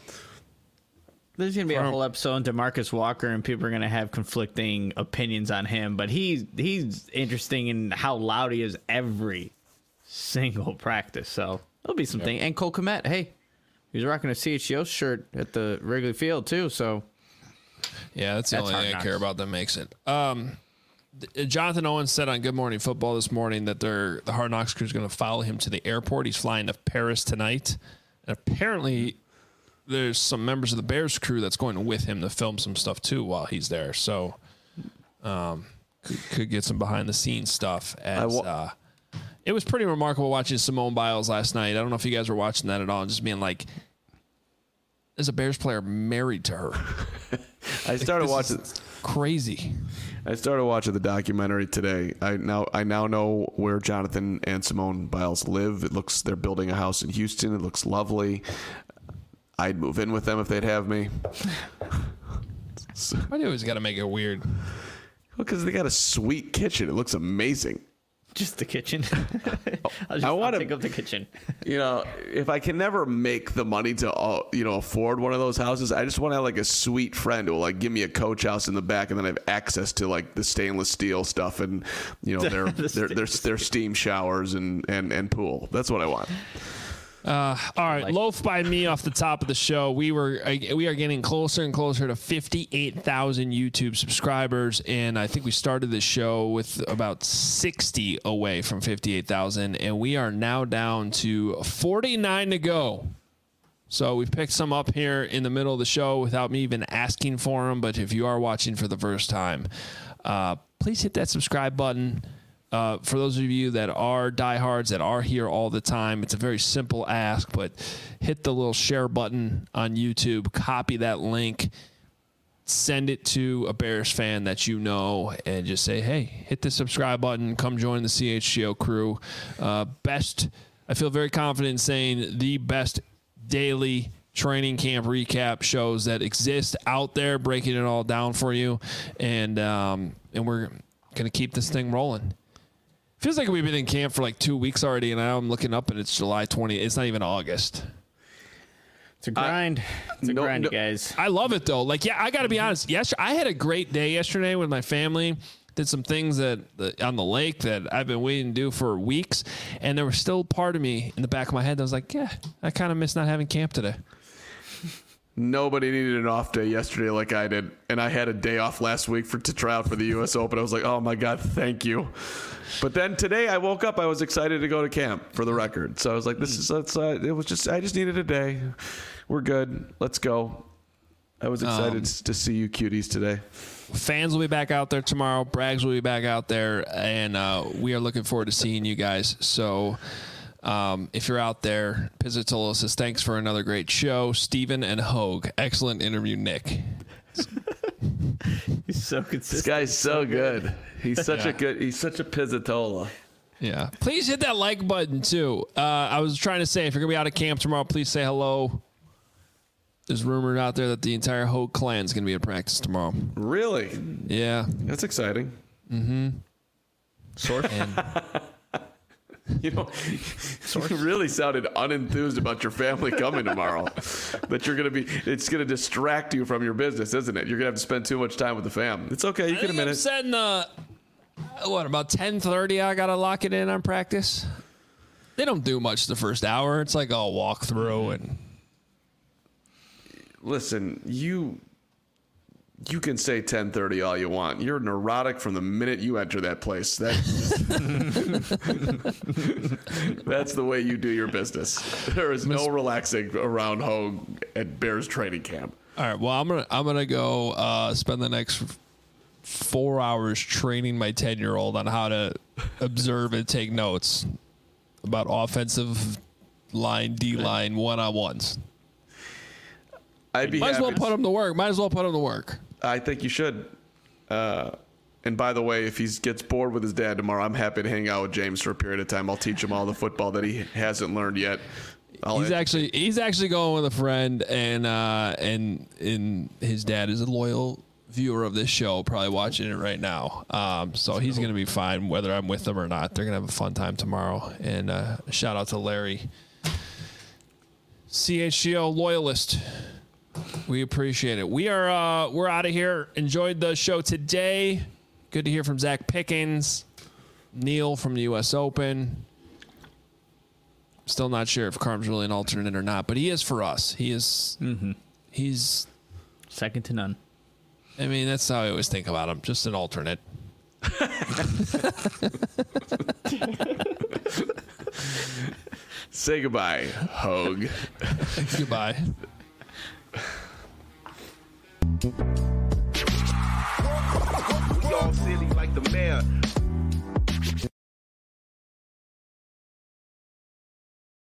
There's going to be a whole episode on DeMarcus Walker, and people are going to have conflicting opinions on him. But he's he's interesting in how loud he is every single practice. So there'll be something. And Cole Kmet, hey, he was rocking a C H G O shirt at the Wrigley Field too. So yeah, that's the That's only Hard thing I Knocks. care about that makes it. Um, th- Jonathan Owens said on Good Morning Football this morning that they're, the Hard Knocks crew is going to follow him to the airport. He's flying to Paris tonight. And apparently there's some members of the Bears crew that's going with him to film some stuff too while he's there. So um, could, could get some behind the scenes stuff. As, wa- uh, it was pretty remarkable watching Simone Biles last night. I don't know if you guys were watching that at all. Just being like, there's a Bears player married to her. I started watching. Crazy. I started watching the documentary today. I now I now know where Jonathan and Simone Biles live. It looks they're building a house in Houston. It looks lovely. I'd move in with them if they'd have me. Why do you always got to make it weird? Because they got a sweet kitchen. It looks amazing. just the kitchen. I'll just I I'll want take up the kitchen. You know, if I can never make the money to, uh, you know, afford one of those houses, I just want to have like a sweet friend who will like give me a coach house in the back, and then I have access to like the stainless steel stuff and you know their The their, their their steam showers and and and pool. That's what I want. Uh, all right, Like- loaf by me off the top of the show. We were uh, we are getting closer and closer to fifty-eight thousand YouTube subscribers, and I think we started this show with about sixty away from fifty-eight thousand, and we are now down to forty-nine to go. So we've picked some up here in the middle of the show without me even asking for them. But if you are watching for the first time, uh, please hit that subscribe button. Uh, for those of you that are diehards, that are here all the time, it's a very simple ask, but hit the little share button on YouTube, copy that link, send it to a Bears fan that you know, and just say, hey, hit the subscribe button, come join the C H G O crew. Uh, best, I feel very confident in saying the best daily training camp recap shows that exist out there, breaking it all down for you. And, um, and we're going to keep this thing rolling. Feels like we've been in camp for like two weeks already, and now I'm looking up and it's July twentieth. It's not even August. It's a grind. Uh, it's a no, grind, no, guys. I love it, though. Like, yeah, I got to be honest. Yes, I had a great day yesterday with my family. Did some things that on the lake that I've been waiting to do for weeks, and there was still part of me in the back of my head that was like, yeah, I kind of miss not having camp today. Nobody needed an off day yesterday like I did, and I had a day off last week for to try out for the U S Open. I was like, oh, my God, thank you. But then today I woke up, I was excited to go to camp, for the record. So I was like, this is, let's, uh, it was just, I just needed a day. We're good. Let's go. I was excited um, to see you cuties today. Fans will be back out there tomorrow. Braggs will be back out there, and uh, we are looking forward to seeing you guys. So um, if you're out there, Pizzatolo says, thanks for another great show. Steven and Hogue, excellent interview, Nick. He's so consistent. This guy's so good. He's such yeah. a good, he's such a Pizzatola. Yeah. Please hit that like button, too. Uh, I was trying to say, if you're going to be out of camp tomorrow, please say hello. There's rumors out there that the entire Hogue clan is going to be at practice tomorrow. Really? Yeah. That's exciting. Mm-hmm. Source? And you know, you really sounded unenthused about your family coming tomorrow. That you're going to be, it's going to distract you from your business, isn't it? You're going to have to spend too much time with the fam. It's okay. You I can admit I'm it. Setting, uh, what, about ten thirty I got to lock it in on practice? They don't do much the first hour. It's like I'll walk through and... Listen, you you can say ten thirty all you want. You're neurotic from the minute you enter that place. That, that's the way you do your business. There is no relaxing around Hogue at Bears training camp. All right, well, I'm gonna I'm gonna go uh, spend the next four hours training my ten-year-old on how to observe and take notes about offensive line, D line, one-on-ones. I'd be Might as well happy put him to work. Might as well put him to work. I think you should. Uh, and by the way, if he gets bored with his dad tomorrow, I'm happy to hang out with James for a period of time. I'll teach him all the football that he hasn't learned yet. I'll he's actually he's actually going with a friend, and uh, and and his dad is a loyal viewer of this show, probably watching it right now. Um, so he's going to be fine whether I'm with them or not. They're going to have a fun time tomorrow. And uh, shout out to Larry, C H G O loyalist. We appreciate it. We are uh, we're out of here. Enjoyed the show today. Good to hear from Zach Pickens, Neil from the U S Open. Still not sure if Carm's really an alternate or not, but he is for us. He is. Mm-hmm. He's second to none. I mean, that's how I always think about him. Just an alternate. Say goodbye, Hogue. Goodbye. We all silly like the mayor.